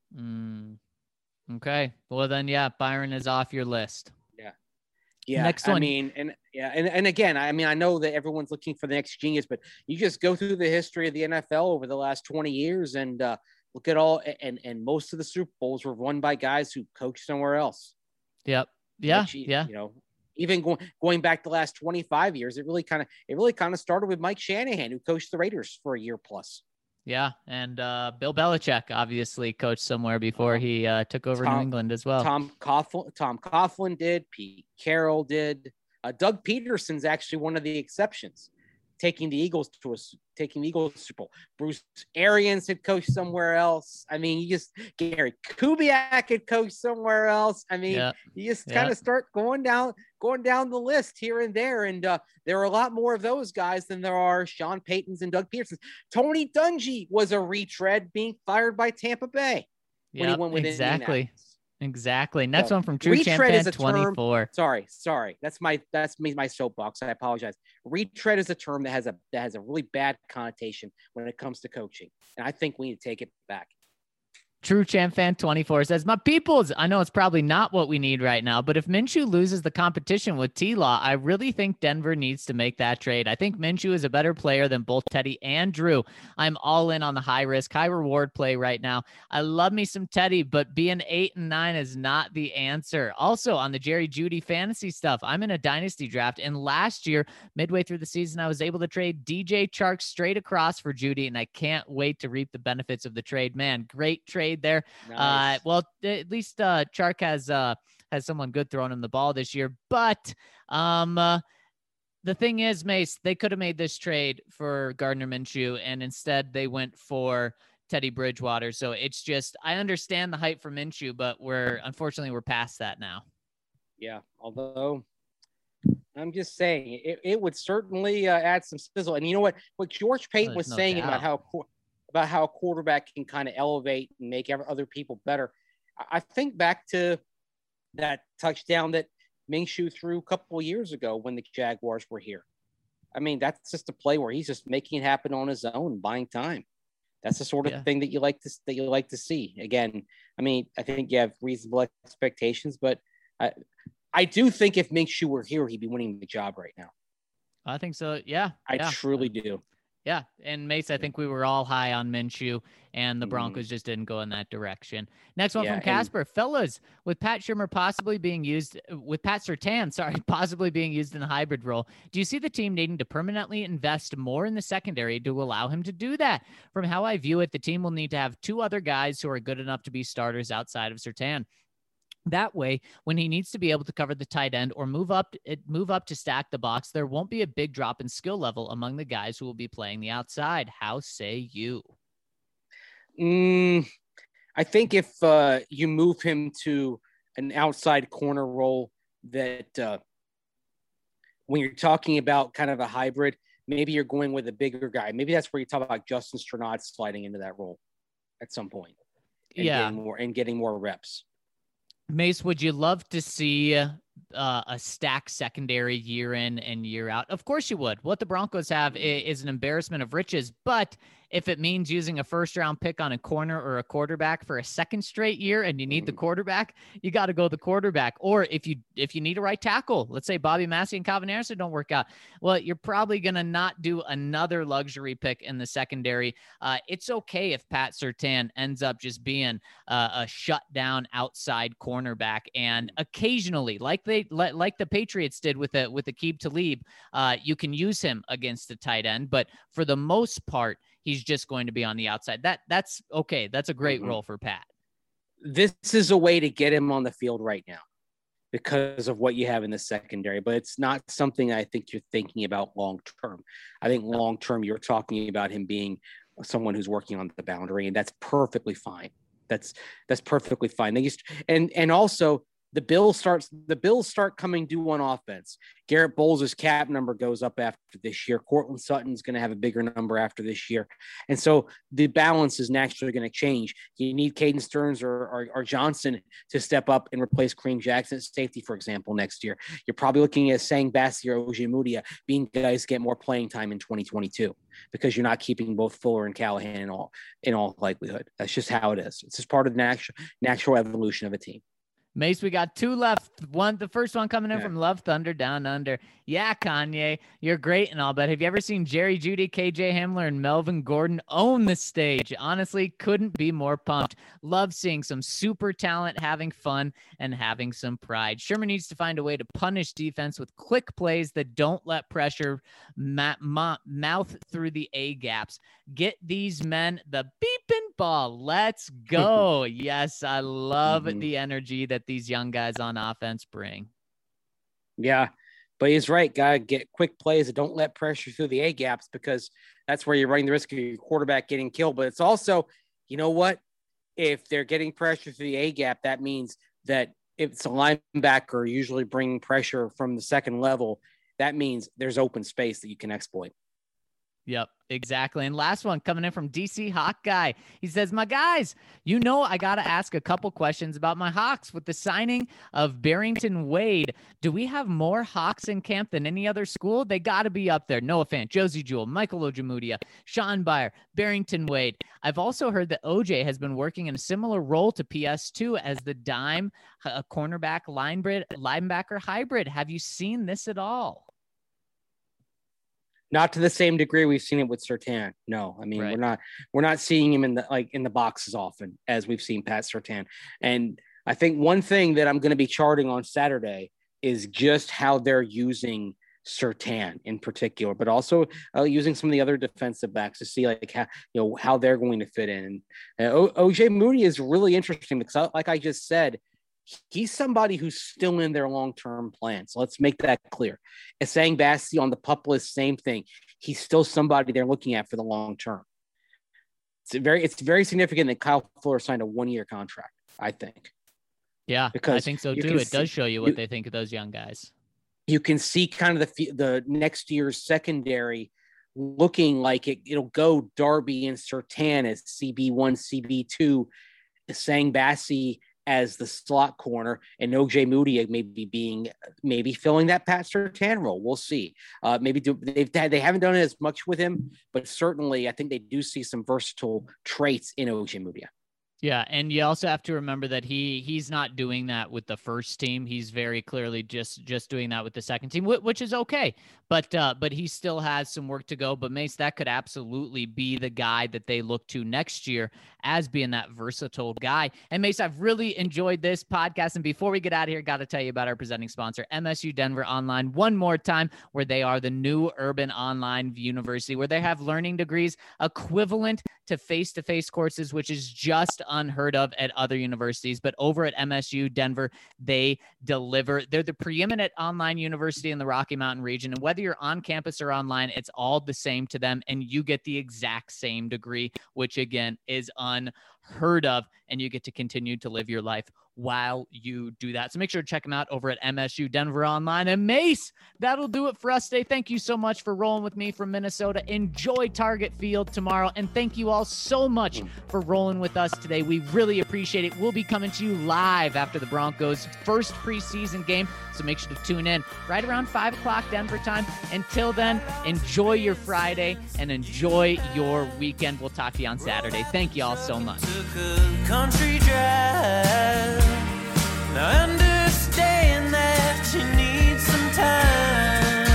Mm. Okay. Well, then, yeah, Byron is off your list. Yeah. Yeah. Next I one. mean, and yeah. And, and again, I mean, I know that everyone's looking for the next genius, but you just go through the history of the N F L over the last twenty years and uh, look at all, and, and most of the Super Bowls were won by guys who coached somewhere else. Yep. Yeah. Which, yeah. You know, even going, going back the last twenty-five years, it really kind of, it really kind of started with Mike Shanahan, who coached the Raiders for a year plus. Yeah, and uh, Bill Belichick obviously coached somewhere before he uh, took over Tom, New England as well. Tom Coughlin, Tom Coughlin did. Pete Carroll did. Uh, Doug Peterson's actually one of the exceptions, taking the Eagles to a taking the Eagles to Super Bowl. Bruce Arians had coached somewhere else. I mean, you just Gary Kubiak had coached somewhere else. I mean, yeah. you just yeah. kind of start going down going down the list here and there, and uh, there are a lot more of those guys than there are Sean Paytons and Doug Petersons. Tony Dungy was a retread, being fired by Tampa Bay when yep, he went with exactly. Exactly. Next so, one from True Champ Fan twenty-four. Term, sorry, sorry. That's my that's me my soapbox. I apologize. Retread is a term that has a that has a really bad connotation when it comes to coaching, and I think we need to take it back. True Champ Fan twenty-four says, my peoples, I know it's probably not what we need right now, but if Minshew loses the competition with T-Law, I really think Denver needs to make that trade. I think Minshew is a better player than both Teddy and Drew. I'm all in on the high risk, high reward play right now. I love me some Teddy, but being eight and nine is not the answer. Also on the Jerry Jeudy fantasy stuff, I'm in a dynasty draft, and last year, midway through the season, I was able to trade D J Chark straight across for Jeudy, and I can't wait to reap the benefits of the trade. Man, great trade there. Nice. Uh, well, at least uh, Chark has uh, has someone good throwing him the ball this year. But um, uh, the thing is, Mace, they could have made this trade for Gardner Minshew, and instead they went for Teddy Bridgewater. So it's just, I understand the hype for Minshew, but we're unfortunately we're past that now. Yeah, although I'm just saying it, it would certainly uh, add some sizzle. And you know what? What George Payton oh, was no saying doubt. about how about how a quarterback can kind of elevate and make other people better. I think back to that touchdown that Minshew threw a couple of years ago when the Jaguars were here. I mean, that's just a play where he's just making it happen on his own, buying time. That's the sort of Yeah. thing that you like to that you like to see. Again, I mean, I think you have reasonable expectations, but I, I do think if Minshew were here, he'd be winning the job right now. I think so. Yeah. I yeah. truly do. Yeah, and Mace, I think we were all high on Minshew, and the Mhm. Broncos just didn't go in that direction. Next one Yeah, from and- Casper. Fellas, with Pat Shurmur possibly being used, with Pat Surtain, sorry, possibly being used in a hybrid role, do you see the team needing to permanently invest more in the secondary to allow him to do that? From how I view it, the team will need to have two other guys who are good enough to be starters outside of Surtain. That way, when he needs to be able to cover the tight end or move up, move up to stack the box, there won't be a big drop in skill level among the guys who will be playing the outside. How say you? Mm, I think if uh, you move him to an outside corner role, that uh, when you're talking about kind of a hybrid, maybe you're going with a bigger guy. Maybe that's where you talk about Justin Strnad sliding into that role at some point. And Yeah. getting more, and getting more reps. Mace, would you love to see uh, a stacked secondary year in and year out? Of course you would. What the Broncos have is, is an embarrassment of riches, but if it means using a first round pick on a corner or a quarterback for a second straight year and you need the quarterback, you got to go the quarterback. Or if you if you need a right tackle, let's say Bobby Massey and Calvin Harrison don't work out, well, you're probably going to not do another luxury pick in the secondary. Uh, it's okay if Pat Surtain ends up just being uh, a shutdown outside cornerback, and occasionally, like they like the Patriots did with a with Aqib Talib, uh, you can use him against a tight end, but for the most part, he's just going to be on the outside. That that's okay. That's a great Mhm. role for Pat. This is a way to get him on the field right now because of what you have in the secondary, but it's not something I think you're thinking about long term. I think long term you're talking about him being someone who's working on the boundary, and that's perfectly fine. That's that's perfectly fine. They used and and also the Bills starts the Bills start coming due on offense. Garrett Bowles' cap number goes up after this year. Cortland Sutton's going to have a bigger number after this year. And so the balance is naturally going to change. You need Caden Stearns or, or, or Johnson to step up and replace Kareem Jackson at safety, for example, next year. You're probably looking at Sang Bassi or Ojemudia being guys get more playing time in twenty twenty-two because you're not keeping both Fuller and Callahan in all, in all likelihood. That's just how it is. It's just part of the natural, natural evolution of a team. Mace, we got two left. One, the first one coming in yeah. from Love Thunder Down Under. Yeah, Kanye, you're great and all, but have you ever seen Jerry Jeudy, K J Hamler, and Melvin Gordon own the stage? Honestly, couldn't be more pumped. Love seeing some super talent, having fun, and having some pride. Sherman needs to find a way to punish defense with quick plays that don't let pressure ma- ma- mouth through the A gaps. Get these men the beeping ball. Let's go. Yes, I love mm-hmm. the energy that these young guys on offense bring. Yeah, but he's right. Gotta get quick plays that don't let pressure through the A gaps because that's where you're running the risk of your quarterback getting killed. But it's also, you know what? If they're getting pressure through the A gap, that means that if it's a linebacker usually bringing pressure from the second level, that means there's open space that you can exploit. Yep, exactly. And last one coming in from D C Hawk Guy. He says, my guys, you know, I got to ask a couple questions about my Hawks. With the signing of Barrington Wade, do we have more Hawks in camp than any other school? They got to be up there. Noah Fant, Josie Jewell, Michael Ojemudia, Sean Byer, Barrington Wade. I've also heard that O J has been working in a similar role to P S two as the dime, a cornerback linebacker hybrid. Have you seen this at all? Not to the same degree we've seen it with Surtain. No, I mean, right. we're not, we're not seeing him in the, like in the box as often as we've seen Pat Surtain. And I think one thing that I'm going to be charting on Saturday is just how they're using Surtain in particular, but also uh, using some of the other defensive backs to see like how, you know, how they're going to fit in. And uh, Ojemudia is really interesting because like I just said, he's somebody who's still in their long-term plan. So let's make that clear. As Sang Bassi on the pup list, same thing. He's still somebody they're looking at for the long term. It's very, it's very significant that Kyle Fuller signed a one-year contract, I think. Yeah, because I think so too. It see, does show you what you, they think of those young guys. You can see kind of the the next year's secondary looking like it, it'll go Darby and Surtain as C B one, C B two, Sang Bassi as the slot corner, and Ojemudia maybe being maybe filling that Pat Surtain role. We'll see. Uh, maybe do, they've they haven't done it as much with him, but certainly I think they do see some versatile traits in Ojemudia. Yeah, and you also have to remember that he he's not doing that with the first team. He's very clearly just just doing that with the second team, which is okay. But uh, but he still has some work to go. But Mace, that could absolutely be the guy that they look to next year as being that versatile guy. And Mace, I've really enjoyed this podcast. And before we get out of here, got to tell you about our presenting sponsor, M S U Denver Online, one more time, where they are the new urban online university, where they have learning degrees equivalent to face-to-face courses, which is just unheard of at other universities. But over at M S U Denver, they deliver. They're the preeminent online university in the Rocky Mountain region. And whether you're on campus or online, it's all the same to them. And you get the exact same degree, which again is unheard of. And you get to continue to live your life while you do that. So make sure to check them out over at M S U Denver Online. And Mace, that'll do it for us today. Thank you so much for rolling with me from Minnesota. Enjoy Target Field tomorrow. And thank you all so much for rolling with us today. We really appreciate it. We'll be coming to you live after the Broncos' first preseason game. So make sure to tune in right around five o'clock Denver time. Until then, enjoy your Friday and enjoy your weekend. We'll talk to you on Saturday. Thank you all so much. Took a country drive. Now understand that you need some time.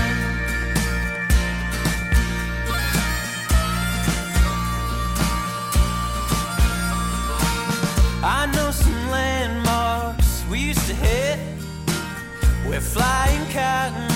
I know some landmarks we used to hit. We're flying cotton